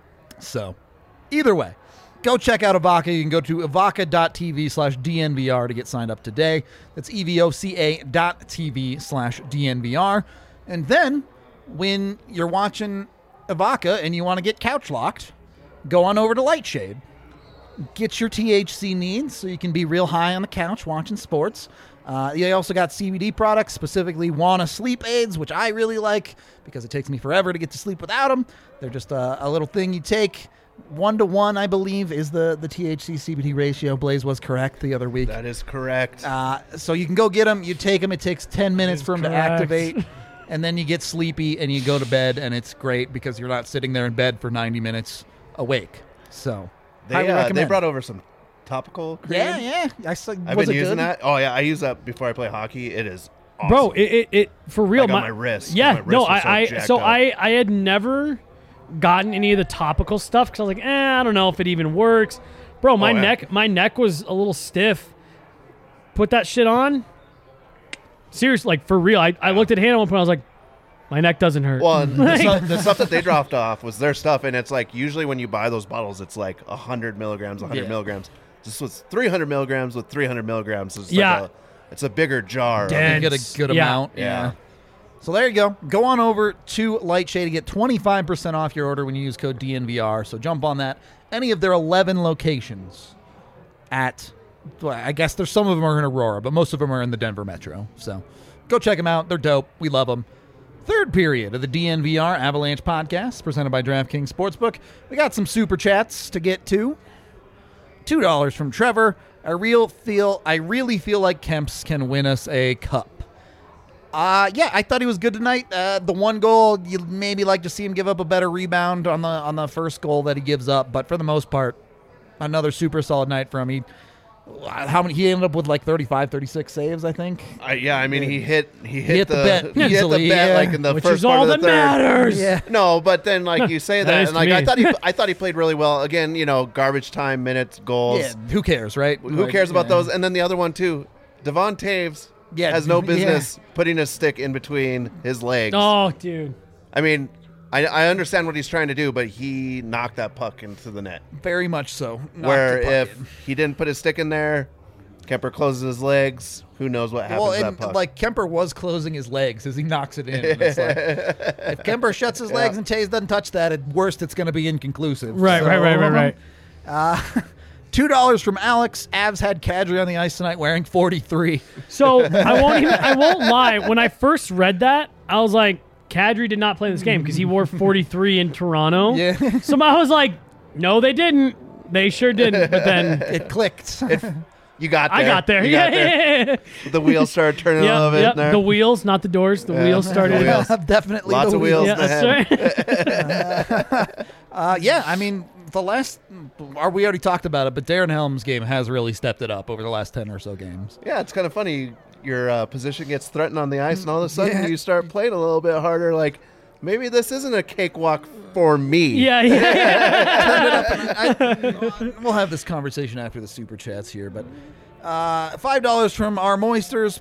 [SPEAKER 2] So either way, go check out Avaca. You can go to avaca.tv slash DNVR to get signed up today. That's E-V-O-C-A dot TV slash DNVR. And then when you're watching Avaca and you want to get couch locked, go on over to Lightshade. Get your T H C needs so you can be real high on the couch watching sports. Uh, they also got C B D products, specifically Wana sleep aids, which I really like because it takes me forever to get to sleep without them. They're just a, a little thing you take. One to one, I believe, is the, the T H C C B D ratio. Blaze was correct the other week.
[SPEAKER 3] That is correct.
[SPEAKER 2] Uh, so you can go get them. You take them. It takes ten minutes for them to
[SPEAKER 1] correct.
[SPEAKER 2] activate. And then you get sleepy and you go to bed, and it's great because you're not sitting there in bed for ninety minutes awake. So highly
[SPEAKER 3] they, uh, they
[SPEAKER 2] recommend.
[SPEAKER 3] brought over some topical cream.
[SPEAKER 2] Yeah, yeah. I saw,
[SPEAKER 3] I've
[SPEAKER 2] was
[SPEAKER 3] been
[SPEAKER 2] it
[SPEAKER 3] using
[SPEAKER 2] good?
[SPEAKER 3] that. Oh, yeah. I use that before I play hockey. It is awesome.
[SPEAKER 1] Bro, it, it, it for real.
[SPEAKER 3] Like on my wrist, 'cause
[SPEAKER 1] Yeah,
[SPEAKER 3] my wrist
[SPEAKER 1] no,
[SPEAKER 3] was
[SPEAKER 1] I,
[SPEAKER 3] so
[SPEAKER 1] I
[SPEAKER 3] jacked
[SPEAKER 1] so
[SPEAKER 3] up.
[SPEAKER 1] I, I had never gotten any of the topical stuff because I was like, eh, I don't know if it even works. Bro, my
[SPEAKER 3] Oh, yeah.
[SPEAKER 1] neck, my neck was a little stiff. Put that shit on. Seriously, like for real. I, I looked at Hannah one point. I was like, my neck doesn't hurt.
[SPEAKER 3] Well, and the, stuff, the stuff that they dropped off was their stuff, and it's like usually when you buy those bottles, it's like one hundred milligrams, one hundred
[SPEAKER 2] Yeah.
[SPEAKER 3] milligrams. This was three hundred milligrams with three hundred milligrams. It's
[SPEAKER 1] Yeah.
[SPEAKER 3] like a, it's a bigger jar. of-
[SPEAKER 1] Dense.
[SPEAKER 2] You get a good
[SPEAKER 1] Yeah.
[SPEAKER 2] amount.
[SPEAKER 3] Yeah.
[SPEAKER 2] So there you go. Go on over to Lightshade to get twenty-five percent off your order when you use code D N V R. So jump on that. Any of their eleven locations at, well, I guess there's some of them are in Aurora, but most of them are in the Denver metro. So go check them out. They're dope. We love them. Third period of the D N V R Avalanche podcast presented by DraftKings Sportsbook. We got some super chats to get to. two dollars from Trevor. I real feel I really feel like Kemps can win us a cup. Uh, yeah, I thought he was good tonight. Uh, the one goal, you maybe like to see him give up a better rebound on the on the first goal that he gives up, but for the most part, another super solid night for him. He, how many? He ended up with like thirty-five, thirty-six saves, I think.
[SPEAKER 3] I, yeah, I mean, he hit he hit,
[SPEAKER 2] hit the bet
[SPEAKER 3] he hit
[SPEAKER 2] easily,
[SPEAKER 3] the bet
[SPEAKER 2] yeah.
[SPEAKER 3] like in the
[SPEAKER 1] Which
[SPEAKER 3] first
[SPEAKER 1] is
[SPEAKER 3] part
[SPEAKER 1] all
[SPEAKER 3] of the
[SPEAKER 1] that
[SPEAKER 3] third.
[SPEAKER 1] matters.
[SPEAKER 2] Yeah.
[SPEAKER 3] No, but then like you say
[SPEAKER 1] That
[SPEAKER 3] that,
[SPEAKER 1] is
[SPEAKER 3] and
[SPEAKER 1] to
[SPEAKER 3] like I
[SPEAKER 1] me.
[SPEAKER 3] thought he I thought he played really well. Again, you know, garbage time minutes, goals.
[SPEAKER 2] Yeah, who cares, right?
[SPEAKER 3] Who
[SPEAKER 2] Like,
[SPEAKER 3] cares about
[SPEAKER 2] yeah.
[SPEAKER 3] those? And then the other one too, Devon Taves
[SPEAKER 2] Yeah,
[SPEAKER 3] has no
[SPEAKER 2] yeah.
[SPEAKER 3] business putting his stick in between his legs.
[SPEAKER 1] Oh, dude.
[SPEAKER 3] I mean, I, I understand what he's trying to do, but he knocked that puck into the net.
[SPEAKER 2] Very much so. Knocked
[SPEAKER 3] where
[SPEAKER 2] the puck
[SPEAKER 3] if
[SPEAKER 2] in.
[SPEAKER 3] he didn't put his stick in there, Kemper closes his legs. Who knows what happens
[SPEAKER 2] Well,
[SPEAKER 3] to
[SPEAKER 2] and
[SPEAKER 3] that puck?
[SPEAKER 2] like Kemper was closing his legs as he knocks it in. It's like, if Kemper shuts his legs
[SPEAKER 3] Yeah.
[SPEAKER 2] and Taves doesn't touch that, at worst it's going to be inconclusive.
[SPEAKER 1] Right, right, right, right, right.
[SPEAKER 2] Uh, Two dollars from Alex. Avs had Kadri on the ice tonight wearing forty-three.
[SPEAKER 1] So I won't even. I won't lie. When I first read that, I was like, Kadri did not play this game because he wore forty-three in Toronto.
[SPEAKER 2] Yeah.
[SPEAKER 1] So I was like, no, they didn't. They sure didn't. But then
[SPEAKER 2] It clicked.
[SPEAKER 3] you got there.
[SPEAKER 1] I got there.
[SPEAKER 3] You
[SPEAKER 1] yeah,
[SPEAKER 3] got there.
[SPEAKER 1] yeah, yeah.
[SPEAKER 3] The wheels started turning a
[SPEAKER 1] Yeah,
[SPEAKER 3] little bit
[SPEAKER 1] yeah.
[SPEAKER 3] there.
[SPEAKER 1] The wheels, not the doors. The
[SPEAKER 3] Yeah.
[SPEAKER 1] wheels started.
[SPEAKER 3] The wheels.
[SPEAKER 2] Definitely
[SPEAKER 3] Lots
[SPEAKER 2] the
[SPEAKER 3] of wheels.
[SPEAKER 1] Yeah,
[SPEAKER 3] in the
[SPEAKER 1] that's
[SPEAKER 3] head.
[SPEAKER 1] right.
[SPEAKER 2] Uh, yeah, I mean, the last, or we already talked about it, but Darren Helm's game has really stepped it up over the last ten or so games.
[SPEAKER 3] Yeah, it's kind of funny. Your uh, position gets threatened on the ice, and all of a sudden
[SPEAKER 2] Yeah.
[SPEAKER 3] you start playing a little bit harder. Like, maybe this isn't a cakewalk for me.
[SPEAKER 1] Yeah, yeah.
[SPEAKER 2] Turn it up. And I, we'll have this conversation after the super chats here, but uh, five dollars from our Moisters.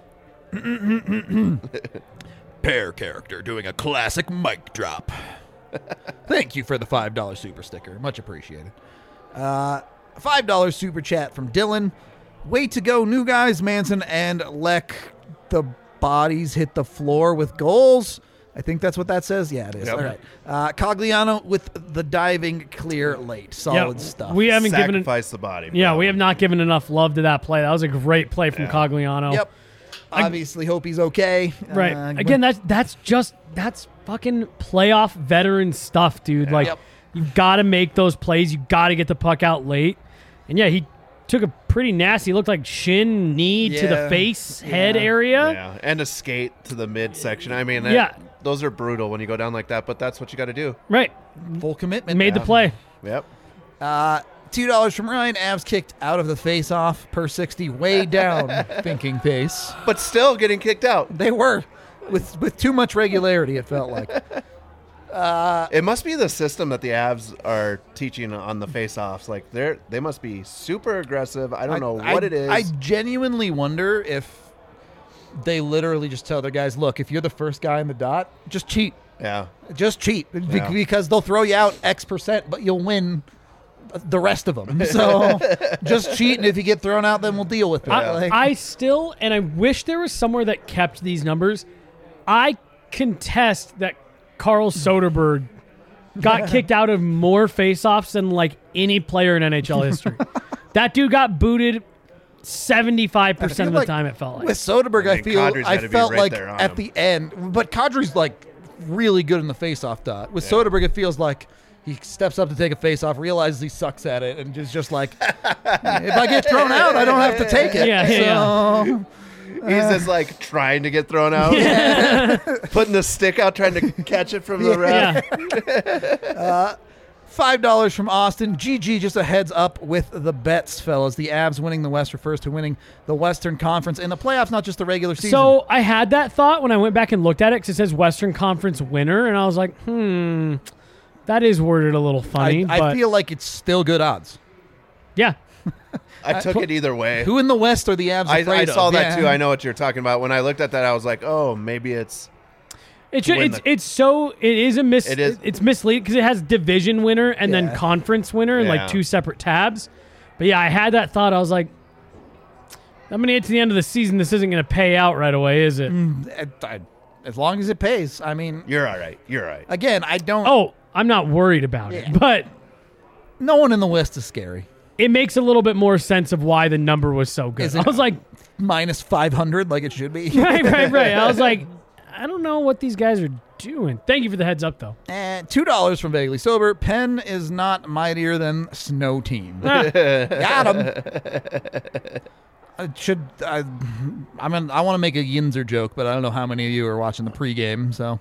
[SPEAKER 2] Pair character doing a classic mic drop. Thank you for the five dollars super sticker. Much appreciated. Uh, five dollars super chat from Dylan. Way to go, new guys, Manson and Leck. The bodies hit the floor with goals. I think that's what that says. Yeah, it is.
[SPEAKER 3] Yep.
[SPEAKER 2] All right. Uh, Cogliano with the diving clear late. Solid
[SPEAKER 1] Yeah,
[SPEAKER 2] stuff.
[SPEAKER 1] We haven't given it.
[SPEAKER 3] Sacrifice the body.
[SPEAKER 1] Yeah,
[SPEAKER 3] bro.
[SPEAKER 1] we have not given enough love to that play. That was a great play from
[SPEAKER 3] Yeah.
[SPEAKER 1] Cogliano.
[SPEAKER 2] Yep. Obviously, hope he's okay.
[SPEAKER 1] Right.
[SPEAKER 2] Uh,
[SPEAKER 1] Again, that's that's just that's fucking playoff veteran stuff, dude. Like
[SPEAKER 2] Yep.
[SPEAKER 1] you got to make those plays. You got to get the puck out late. And yeah, he took a pretty nasty. Looked like shin, knee to the
[SPEAKER 2] Yeah.
[SPEAKER 1] face, head
[SPEAKER 2] Yeah.
[SPEAKER 1] area.
[SPEAKER 3] Yeah, and a skate to the midsection. I mean, that,
[SPEAKER 1] Yeah.
[SPEAKER 3] those are brutal when you go down like that, but that's what you got to do.
[SPEAKER 1] Right.
[SPEAKER 2] full commitment.
[SPEAKER 1] Made the
[SPEAKER 2] now.
[SPEAKER 1] play.
[SPEAKER 3] Yep.
[SPEAKER 2] Uh, Two dollars from Ryan. Avs kicked out of the face-off per sixty, way down thinking pace.
[SPEAKER 3] But still getting kicked out.
[SPEAKER 2] They were with with too much regularity. It felt like.
[SPEAKER 3] It must be the system that the Avs are teaching on the face-offs. Like they're they must be super aggressive. I don't know
[SPEAKER 2] I-
[SPEAKER 3] what
[SPEAKER 2] I-
[SPEAKER 3] it is.
[SPEAKER 2] I genuinely wonder if they literally just tell their guys, "Look, if you're the first guy in the dot, just cheat,
[SPEAKER 3] yeah.
[SPEAKER 2] just cheat, Be-
[SPEAKER 3] Yeah.
[SPEAKER 2] because they'll throw you out X percent, but you'll win." The rest of them. So just cheat, and if you get thrown out, then we'll deal with it.
[SPEAKER 1] I,
[SPEAKER 2] Like-
[SPEAKER 1] I still, and I wish there was somewhere that kept these numbers. I contest that Carl Soderberg got kicked out of more faceoffs than like any player in N H L history. That dude got booted seventy-five percent of the
[SPEAKER 2] like
[SPEAKER 1] time, it felt like.
[SPEAKER 2] With Soderberg,
[SPEAKER 3] I
[SPEAKER 2] I,
[SPEAKER 3] mean,
[SPEAKER 2] feel
[SPEAKER 3] Kadri's
[SPEAKER 2] I
[SPEAKER 3] gotta be
[SPEAKER 2] felt
[SPEAKER 3] right
[SPEAKER 2] like
[SPEAKER 3] there on
[SPEAKER 2] at
[SPEAKER 3] him.
[SPEAKER 2] the end, but Kadri's like really good in the face-off dot. With
[SPEAKER 3] Yeah.
[SPEAKER 2] Soderberg, it feels like he steps up to take a face-off, realizes he sucks at it, and is just like, if I get thrown out, I don't have to take it.
[SPEAKER 1] Yeah, yeah,
[SPEAKER 2] so,
[SPEAKER 3] He's just like trying to get thrown out, putting the stick out, trying to catch it from the ref.
[SPEAKER 1] Yeah.
[SPEAKER 2] five dollars from Austin. G G, just a heads up with the bets, fellas. The Avs winning the West refers to winning the Western Conference in the playoffs, not just the regular season.
[SPEAKER 1] So I had that thought when I went back and looked at it because it says Western Conference winner, and I was like, hmm, that is worded a little funny.
[SPEAKER 2] I, I
[SPEAKER 1] but
[SPEAKER 2] feel like it's still good odds.
[SPEAKER 1] yeah,
[SPEAKER 3] I took it either way.
[SPEAKER 2] Who in the West are the Avs
[SPEAKER 3] I,
[SPEAKER 2] afraid
[SPEAKER 3] I saw
[SPEAKER 2] of?
[SPEAKER 3] that
[SPEAKER 2] Yeah.
[SPEAKER 3] too. I know what you're talking about. When I looked at that, I was like, oh, maybe it's
[SPEAKER 1] it's
[SPEAKER 3] win
[SPEAKER 1] it's
[SPEAKER 3] the-
[SPEAKER 1] it's so it is a mis
[SPEAKER 3] It is-
[SPEAKER 1] it's misleading because it has division winner and then
[SPEAKER 2] Yeah.
[SPEAKER 1] conference winner in
[SPEAKER 3] Yeah.
[SPEAKER 1] like two separate tabs. But yeah, I had that thought. I was like, I'm gonna get to the end of the season. This isn't gonna pay out right away, is it?
[SPEAKER 2] I- I- as long as it pays. I mean,
[SPEAKER 3] you're all right. You're all right.
[SPEAKER 2] again, I don't.
[SPEAKER 1] Oh, I'm not worried about it,
[SPEAKER 2] Yeah.
[SPEAKER 1] but
[SPEAKER 2] No one in the West is scary.
[SPEAKER 1] it makes a little bit more sense of why the number was so good.
[SPEAKER 2] Is
[SPEAKER 1] I
[SPEAKER 2] it-
[SPEAKER 1] was like,
[SPEAKER 2] Minus five hundred, like it should be.
[SPEAKER 1] right, right, right. I was like, I don't know what these guys are doing. Thank you for the heads up, though.
[SPEAKER 2] And two dollars from Vaguely Sober. Penn is not mightier than Snow Team.
[SPEAKER 1] Ah,
[SPEAKER 2] Got him. I should I? I mean, I want to make a Yinzer joke, but I don't know how many of you are watching the pregame. So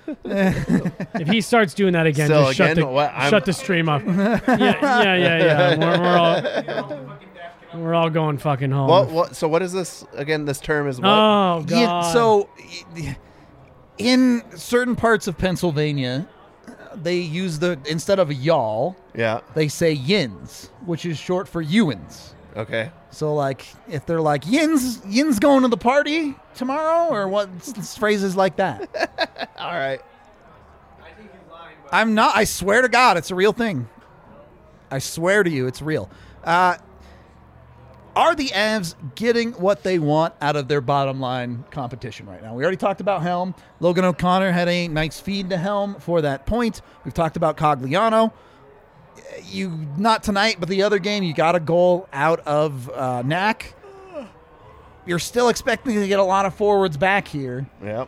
[SPEAKER 1] if he starts doing that again,
[SPEAKER 3] Still,
[SPEAKER 1] just shut
[SPEAKER 3] again,
[SPEAKER 1] the
[SPEAKER 3] what- I'm-
[SPEAKER 1] shut the stream up. yeah, yeah, yeah, yeah. We're, we're all we're all going fucking home.
[SPEAKER 3] What, what? So what is this again? This term is what?
[SPEAKER 1] Oh
[SPEAKER 2] Yeah,
[SPEAKER 1] god.
[SPEAKER 2] so y- in certain parts of Pennsylvania, they use the instead of y'all,
[SPEAKER 3] yeah.
[SPEAKER 2] they say yins, which is short for Ewins.
[SPEAKER 3] Okay.
[SPEAKER 2] So like if they're like yins, yins going to the party tomorrow, or what s- s- phrases like that.
[SPEAKER 3] All right.
[SPEAKER 4] I think he's lying, but
[SPEAKER 2] I'm not. I swear to God, it's a real thing. I swear to you, it's real. Uh, Are the Avs getting what they want out of their bottom line competition right now? We already talked about Helm. Logan O'Connor had a nice feed to Helm for that point. We've talked about Cogliano. You not tonight, but the other game, you got a goal out of uh, Knack. You're still expecting to get a lot of forwards back here.
[SPEAKER 3] Yep.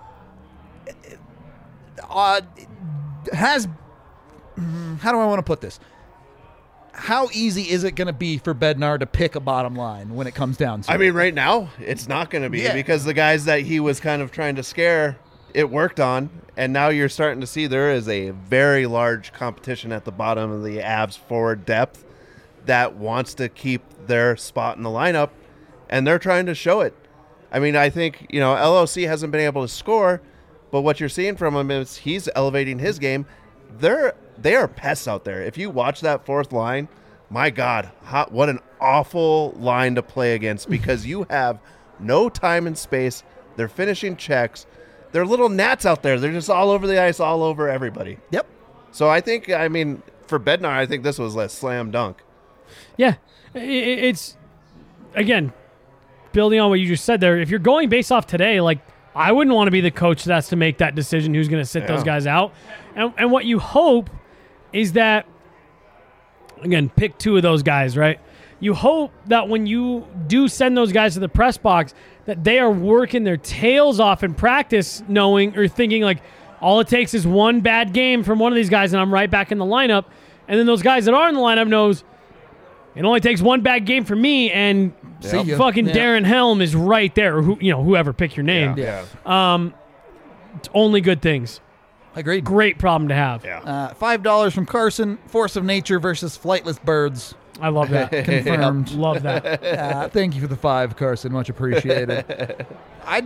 [SPEAKER 2] Uh, has how do I want to put this? How easy is it going to be for Bednar to pick a bottom line when it comes down to
[SPEAKER 3] I
[SPEAKER 2] it?
[SPEAKER 3] mean, right now, it's not going to be
[SPEAKER 2] Yeah.
[SPEAKER 3] because the guys that he was kind of trying to scare, it worked on. And now you're starting to see there is a very large competition at the bottom of the Avs forward depth that wants to keep their spot in the lineup, and they're trying to show it. I mean, I think, you know, L O C hasn't been able to score, but what you're seeing from him is he's elevating his game. They're they are pests out there. If you watch that fourth line, my God, how, what an awful line to play against because you have no time and space. They're finishing checks. They're little gnats out there. They're just all over the ice, all over everybody.
[SPEAKER 2] Yep.
[SPEAKER 3] So I think, I mean, for Bednar, I think this was a slam dunk.
[SPEAKER 1] Yeah, I- I- it's again building on what you just said there. If you're going based off today, like I wouldn't want to be the coach that has to make that decision who's going to sit
[SPEAKER 3] Yeah.
[SPEAKER 1] those guys out. And, and what you hope is that, again, pick two of those guys, right? You hope that when you do send those guys to the press box, that they are working their tails off in practice, knowing or thinking like all it takes is one bad game from one of these guys, and I'm right back in the lineup. And then those guys that are in the lineup knows it only takes one bad game for me, and
[SPEAKER 2] See ya.
[SPEAKER 1] fucking
[SPEAKER 2] Yeah.
[SPEAKER 1] Darren Helm is right there, or who you know, whoever pick your name.
[SPEAKER 3] Yeah.
[SPEAKER 1] It's only good things.
[SPEAKER 2] Agreed.
[SPEAKER 1] Great problem to have.
[SPEAKER 3] Yeah.
[SPEAKER 2] Uh, Five dollars from Carson. Force of nature versus flightless birds.
[SPEAKER 1] I love that.
[SPEAKER 2] Confirmed.
[SPEAKER 1] Love that.
[SPEAKER 2] Uh, thank you for the five, Carson. Much appreciated. I,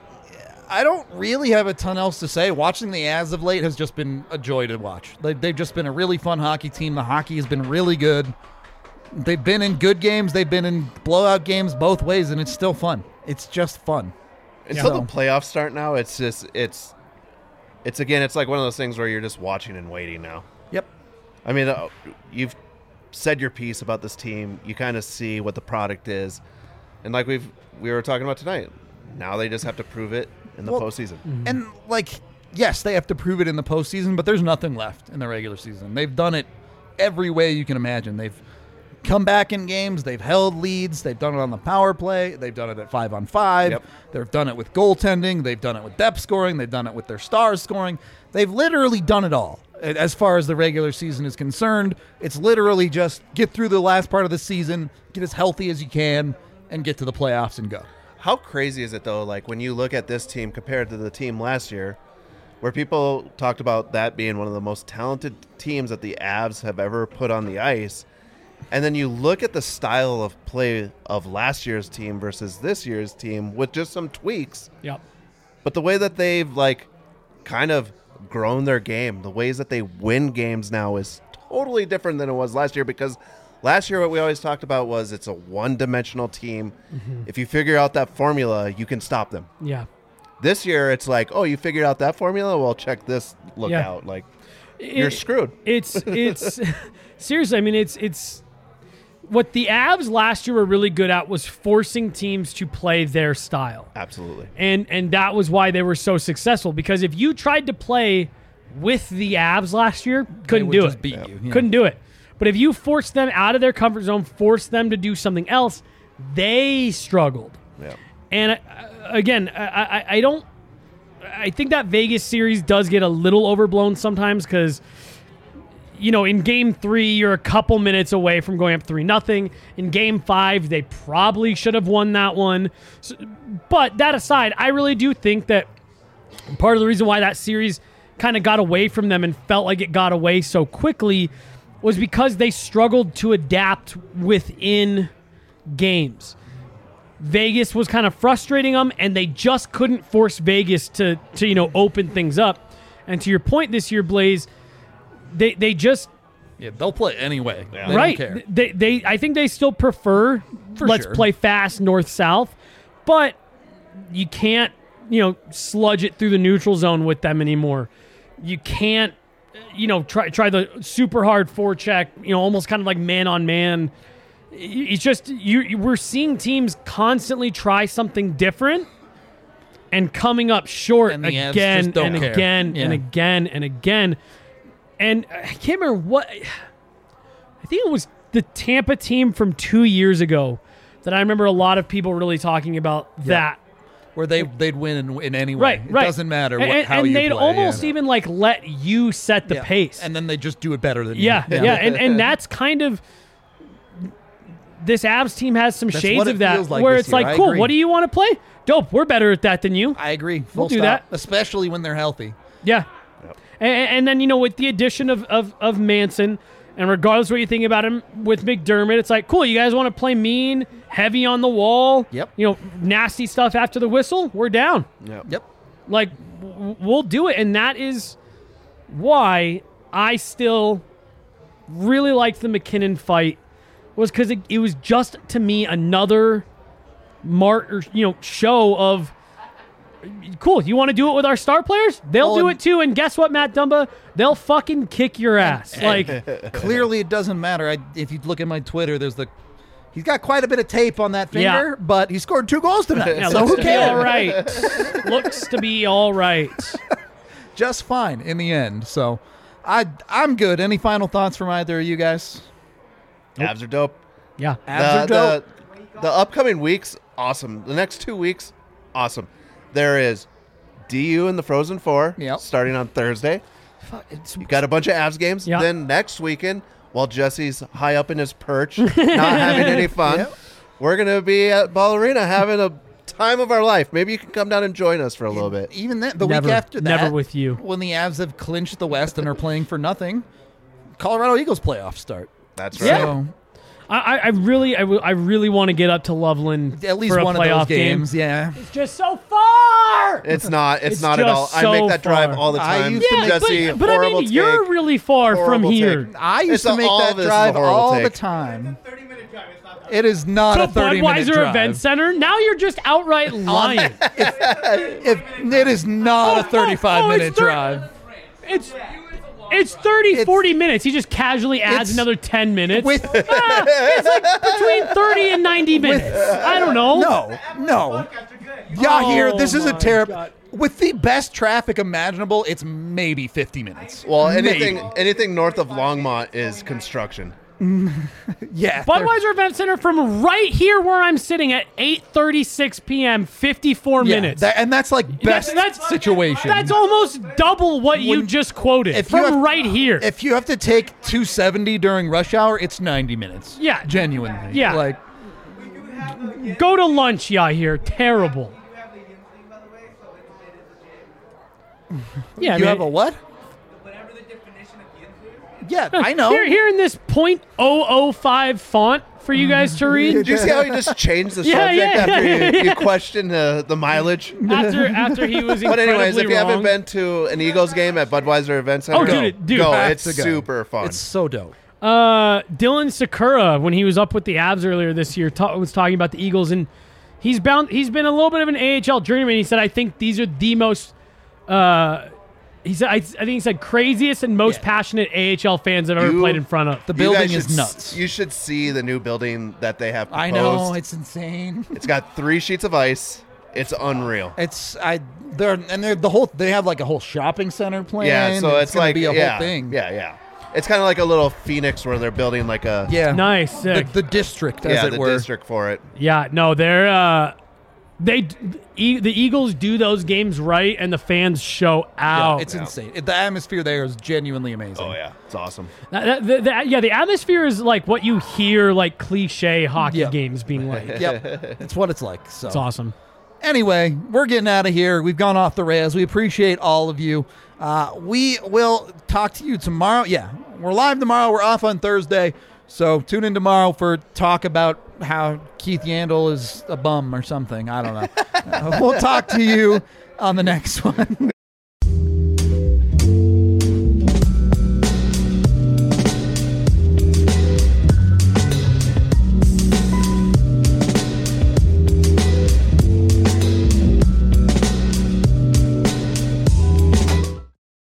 [SPEAKER 2] I don't really have a ton else to say. Watching the Avs of late has just been a joy to watch. They, they've just been a really fun hockey team. The hockey has been really good. They've been in good games. They've been in blowout games both ways, and it's still fun. It's just fun.
[SPEAKER 3] Until
[SPEAKER 2] So-
[SPEAKER 3] the playoffs start now, it's just, it's, it's again, it's like one of those things where you're just watching and waiting now.
[SPEAKER 2] Yep.
[SPEAKER 3] I mean, uh, you've said your piece about this team. You kind of see what the product is, and like we've we were talking about tonight, now they just have to prove it in the
[SPEAKER 2] Well,
[SPEAKER 3] postseason.
[SPEAKER 2] And, like, yes, they have to prove it in the postseason, but there's nothing left in the regular season. They've done it every way you can imagine. They've come back in games. They've held leads. They've done it on the power play. They've done it at five on five.
[SPEAKER 3] Yep.
[SPEAKER 2] They've done it with goaltending. They've done it with depth scoring. They've done it with their stars scoring. They've literally done it all. As far as the regular season is concerned, it's literally just get through the last part of the season, get as healthy as you can, and get to the playoffs and go.
[SPEAKER 3] How crazy is it though? Like when you look at this team compared to the team last year, where people talked about that being one of the most talented teams that the Avs have ever put on the ice. And then you look at the style of play of last year's team versus this year's team with just some tweaks.
[SPEAKER 1] Yep.
[SPEAKER 3] But the way that they've like kind of grown their game, the ways that they win games now is totally different than it was last year, because last year what we always talked about was it's a one-dimensional team.
[SPEAKER 1] Mm-hmm.
[SPEAKER 3] If you figure out that formula, you can stop them.
[SPEAKER 1] Yeah.
[SPEAKER 3] This year it's like, oh, you figured out that formula? Well, check this look
[SPEAKER 1] Yeah.
[SPEAKER 3] out. Like you're
[SPEAKER 1] It-
[SPEAKER 3] screwed.
[SPEAKER 1] It's it's seriously. I mean, it's it's what the Avs last year were really good at was forcing teams to play their style,
[SPEAKER 3] Absolutely.
[SPEAKER 1] and and that was why they were so successful. Because if you tried to play with the Avs last year, couldn't
[SPEAKER 2] would
[SPEAKER 1] do
[SPEAKER 2] just
[SPEAKER 1] it.
[SPEAKER 2] beat you, yeah.
[SPEAKER 1] Couldn't do it. But if you forced them out of their comfort zone, forced them to do something else, they struggled.
[SPEAKER 3] Yeah.
[SPEAKER 1] And uh, again, I, I, I don't. I think that Vegas series does get a little overblown sometimes because, you know, in Game Three you're a couple minutes away from going up three nothing. In Game Five they probably should have won that one. So, but that aside, I really do think that part of the reason why that series kind of got away from them and felt like it got away so quickly was because they struggled to adapt within games. Vegas was kind of frustrating them, and they just couldn't force Vegas to, to you know, open things up. And to your point this year, Blaze, they they just
[SPEAKER 2] Yeah, they'll play anyway. They don't
[SPEAKER 1] right.
[SPEAKER 2] care.
[SPEAKER 1] They they I think they still prefer
[SPEAKER 2] For
[SPEAKER 1] let's
[SPEAKER 2] sure.
[SPEAKER 1] play fast north south, but you can't you know sludge it through the neutral zone with them anymore. You can't you know try try the super hard forecheck, you know, almost kind of like man on man. it's just you. you- We're seeing teams constantly try something different and coming up short
[SPEAKER 2] And the Avs
[SPEAKER 1] again
[SPEAKER 2] just don't
[SPEAKER 1] and
[SPEAKER 2] care.
[SPEAKER 1] again
[SPEAKER 2] Yeah.
[SPEAKER 1] and again and again. And I can't remember what. I think it was the Tampa team from two years ago that I remember a lot of people really talking about that.
[SPEAKER 2] Where they they'd win in, in any way.
[SPEAKER 1] Right,
[SPEAKER 2] It
[SPEAKER 1] right.
[SPEAKER 2] doesn't matter what,
[SPEAKER 1] and,
[SPEAKER 2] how
[SPEAKER 1] and
[SPEAKER 2] you
[SPEAKER 1] they'd
[SPEAKER 2] play,
[SPEAKER 1] almost
[SPEAKER 2] yeah.
[SPEAKER 1] even like let you set the
[SPEAKER 2] Yeah.
[SPEAKER 1] pace.
[SPEAKER 2] and then they just do it better than
[SPEAKER 1] yeah,
[SPEAKER 2] you.
[SPEAKER 1] yeah, And and that's kind of this Avs team has some
[SPEAKER 2] That's
[SPEAKER 1] shades
[SPEAKER 2] what it
[SPEAKER 1] of that
[SPEAKER 2] feels like
[SPEAKER 1] where
[SPEAKER 2] this
[SPEAKER 1] it's
[SPEAKER 2] year.
[SPEAKER 1] like,
[SPEAKER 2] I
[SPEAKER 1] cool,
[SPEAKER 2] agree.
[SPEAKER 1] what do you want to play? Dope, we're better at that than you.
[SPEAKER 2] I agree. Full
[SPEAKER 1] We'll do
[SPEAKER 2] stop.
[SPEAKER 1] that.
[SPEAKER 2] Especially when they're healthy.
[SPEAKER 1] Yeah. And, and then, you know, with the addition of, of, of Manson, and regardless of what you think about him with McDermott, it's like, cool, you guys want to play mean, heavy on the wall,
[SPEAKER 2] Yep.
[SPEAKER 1] you know, nasty stuff after the whistle? We're down.
[SPEAKER 3] Yep.
[SPEAKER 2] Yep.
[SPEAKER 1] Like, w- we'll do it. And that is why I still really liked the McKinnon fight, was because it, it was just, to me, another mark or, you know, show of, cool, you want to do it with our star players? They'll
[SPEAKER 2] Well,
[SPEAKER 1] do
[SPEAKER 2] and-
[SPEAKER 1] it too. And guess what, Matt Dumba? They'll fucking kick your ass. Like,
[SPEAKER 2] Clearly, it doesn't matter. I, if you look at my Twitter, there's the. He's got quite a bit of tape on that
[SPEAKER 1] Yeah.
[SPEAKER 2] finger, but he scored two goals tonight.
[SPEAKER 1] yeah,
[SPEAKER 2] so
[SPEAKER 1] looks
[SPEAKER 2] who
[SPEAKER 1] to be all
[SPEAKER 2] cares?
[SPEAKER 1] right. Looks to be all right.
[SPEAKER 2] Just fine in the end. So, I I'm good. Any final thoughts from either of you guys?
[SPEAKER 3] Avs are dope.
[SPEAKER 1] Yeah.
[SPEAKER 2] Avs are
[SPEAKER 3] the,
[SPEAKER 2] dope.
[SPEAKER 3] the, the upcoming weeks, awesome. The next two weeks, awesome. There is D U in the Frozen Four
[SPEAKER 2] Yep.
[SPEAKER 3] starting on Thursday.
[SPEAKER 1] It's,
[SPEAKER 3] You got a bunch of Avs games.
[SPEAKER 1] Yeah.
[SPEAKER 3] Then next weekend, while Jesse's high up in his perch, not having any fun,
[SPEAKER 2] Yep.
[SPEAKER 3] we're going to be at Ball Arena having a time of our life. Maybe you can come down and join us for a little bit.
[SPEAKER 2] Even then, the
[SPEAKER 1] Never.
[SPEAKER 2] week after that,
[SPEAKER 1] Never with you.
[SPEAKER 2] when the Avs have clinched the West and are playing for nothing, Colorado Eagles playoffs start.
[SPEAKER 3] That's right.
[SPEAKER 2] So,
[SPEAKER 1] I, I I really, I, w- I really want to get up to Loveland
[SPEAKER 2] at least
[SPEAKER 1] for a
[SPEAKER 2] one of
[SPEAKER 1] playoff
[SPEAKER 2] those games,
[SPEAKER 1] game.
[SPEAKER 2] yeah.
[SPEAKER 1] It's just so far.
[SPEAKER 3] It's not. It's,
[SPEAKER 1] It's
[SPEAKER 3] not at all.
[SPEAKER 1] just
[SPEAKER 3] I make
[SPEAKER 1] so
[SPEAKER 3] that drive
[SPEAKER 1] far.
[SPEAKER 3] all the
[SPEAKER 2] I
[SPEAKER 3] time.
[SPEAKER 2] used to
[SPEAKER 1] Yeah,
[SPEAKER 3] Jesse,
[SPEAKER 1] but, but I
[SPEAKER 3] horrible
[SPEAKER 1] mean, you're
[SPEAKER 3] take.
[SPEAKER 1] really far from
[SPEAKER 3] Horrible
[SPEAKER 1] here.
[SPEAKER 3] take.
[SPEAKER 2] I used
[SPEAKER 3] It's
[SPEAKER 2] to
[SPEAKER 3] a-
[SPEAKER 2] make
[SPEAKER 3] all
[SPEAKER 2] that
[SPEAKER 3] of this is a
[SPEAKER 2] drive
[SPEAKER 3] horrible
[SPEAKER 2] all the
[SPEAKER 3] take.
[SPEAKER 2] time.
[SPEAKER 4] thirty minute drive. It's not that
[SPEAKER 2] It is not
[SPEAKER 1] To
[SPEAKER 2] a thirty minute
[SPEAKER 1] Budweiser
[SPEAKER 2] drive.
[SPEAKER 1] Event Center. Now you're just outright lying.
[SPEAKER 2] If, it is not a thirty-five
[SPEAKER 1] oh, it's
[SPEAKER 2] minute
[SPEAKER 1] thir-
[SPEAKER 2] drive.
[SPEAKER 1] It's it's thirty,
[SPEAKER 2] It's-
[SPEAKER 1] forty minutes. He just casually adds
[SPEAKER 2] it's-
[SPEAKER 1] another ten minutes.
[SPEAKER 2] With
[SPEAKER 1] Ah, it's like between thirty and ninety minutes. I don't know.
[SPEAKER 2] no, no.
[SPEAKER 4] After good.
[SPEAKER 2] Yeah, here
[SPEAKER 1] Oh
[SPEAKER 2] this is a
[SPEAKER 1] my
[SPEAKER 2] terrible.
[SPEAKER 1] God.
[SPEAKER 2] With the best traffic imaginable, it's maybe fifty minutes.
[SPEAKER 3] Well, anything
[SPEAKER 2] Maybe.
[SPEAKER 3] anything north of Longmont is construction.
[SPEAKER 2] Yeah.
[SPEAKER 1] Budweiser Event Center from right here where I'm sitting at eight thirty-six p.m. fifty-four
[SPEAKER 2] Yeah,
[SPEAKER 1] minutes.
[SPEAKER 2] that- and that's like best
[SPEAKER 1] That's- that's-
[SPEAKER 2] situation.
[SPEAKER 1] That's almost double what you
[SPEAKER 2] When-
[SPEAKER 1] just quoted
[SPEAKER 2] if you
[SPEAKER 1] from
[SPEAKER 2] have-
[SPEAKER 1] right here.
[SPEAKER 2] If you have to take two seventy during rush hour, it's ninety minutes.
[SPEAKER 1] Yeah.
[SPEAKER 2] Genuinely.
[SPEAKER 1] Yeah.
[SPEAKER 2] Like,
[SPEAKER 1] Go to lunch, yeah, here. Terrible.
[SPEAKER 4] You have the yin thing, by the way, so it's, it is legit.
[SPEAKER 1] Yeah,
[SPEAKER 2] you
[SPEAKER 1] man.
[SPEAKER 2] have a what?
[SPEAKER 4] Whatever the definition of yin is.
[SPEAKER 2] Yeah, I know.
[SPEAKER 1] Here, here in this point oh oh five font for you guys to read.
[SPEAKER 3] Did you see how he just changed the
[SPEAKER 1] Yeah,
[SPEAKER 3] subject
[SPEAKER 1] yeah,
[SPEAKER 3] after
[SPEAKER 1] yeah,
[SPEAKER 3] you,
[SPEAKER 1] yeah.
[SPEAKER 3] you questioned the, the mileage?
[SPEAKER 1] after after he was
[SPEAKER 3] But
[SPEAKER 1] incredibly
[SPEAKER 3] anyways, if you
[SPEAKER 1] wrong.
[SPEAKER 3] haven't been to an Eagles game at Budweiser Event Center,
[SPEAKER 1] Oh, dude, dude.
[SPEAKER 3] go.
[SPEAKER 2] Have
[SPEAKER 3] It's
[SPEAKER 2] to go.
[SPEAKER 3] super fun.
[SPEAKER 2] It's so dope.
[SPEAKER 1] Uh, Dylan Sakura, when he was up with the Avs earlier this year, ta- was talking about the Eagles, and he's bound. He's been a little bit of an A H L journeyman. He said, "I think these are the most." Uh, he said, I, "I think he said craziest and most
[SPEAKER 2] Yeah.
[SPEAKER 1] passionate A H L fans I've ever
[SPEAKER 3] You-
[SPEAKER 1] played in front of."
[SPEAKER 2] The
[SPEAKER 3] You
[SPEAKER 2] building
[SPEAKER 3] guys
[SPEAKER 2] is
[SPEAKER 3] should s-
[SPEAKER 2] nuts.
[SPEAKER 3] You should see the new building that they have proposed.
[SPEAKER 2] I know it's insane.
[SPEAKER 3] It's got three sheets of ice. It's unreal.
[SPEAKER 2] It's I they're and they're the whole they have like a whole shopping center plan.
[SPEAKER 3] Yeah, so it's,
[SPEAKER 2] gonna
[SPEAKER 3] like
[SPEAKER 2] be a
[SPEAKER 3] yeah,
[SPEAKER 2] whole thing.
[SPEAKER 3] Yeah, yeah. It's kind of like a little Phoenix where they're building like a
[SPEAKER 2] Yeah.
[SPEAKER 1] Nice,
[SPEAKER 2] The,
[SPEAKER 1] sick.
[SPEAKER 2] the district, as
[SPEAKER 3] yeah
[SPEAKER 2] it
[SPEAKER 3] the
[SPEAKER 2] were.
[SPEAKER 3] district for it.
[SPEAKER 1] Yeah, no, they're uh, they e- the Eagles do those games right, and the fans show
[SPEAKER 2] Yeah,
[SPEAKER 1] out.
[SPEAKER 2] it's insane. It- the atmosphere there is genuinely amazing.
[SPEAKER 3] Oh yeah, it's awesome.
[SPEAKER 1] That- that- the- the- yeah, the atmosphere is like what you hear like cliche hockey
[SPEAKER 2] Yeah.
[SPEAKER 1] games being like.
[SPEAKER 2] Yep. It's what it's like. So
[SPEAKER 1] It's awesome.
[SPEAKER 2] anyway, we're getting out of here. We've gone off the rails. We appreciate all of you. Uh, we will talk to you tomorrow. Yeah, we're live tomorrow. We're off on Thursday. So tune in tomorrow for talk about how Keith Yandel is a bum or something. I don't know. Uh, we'll talk to you on the next one.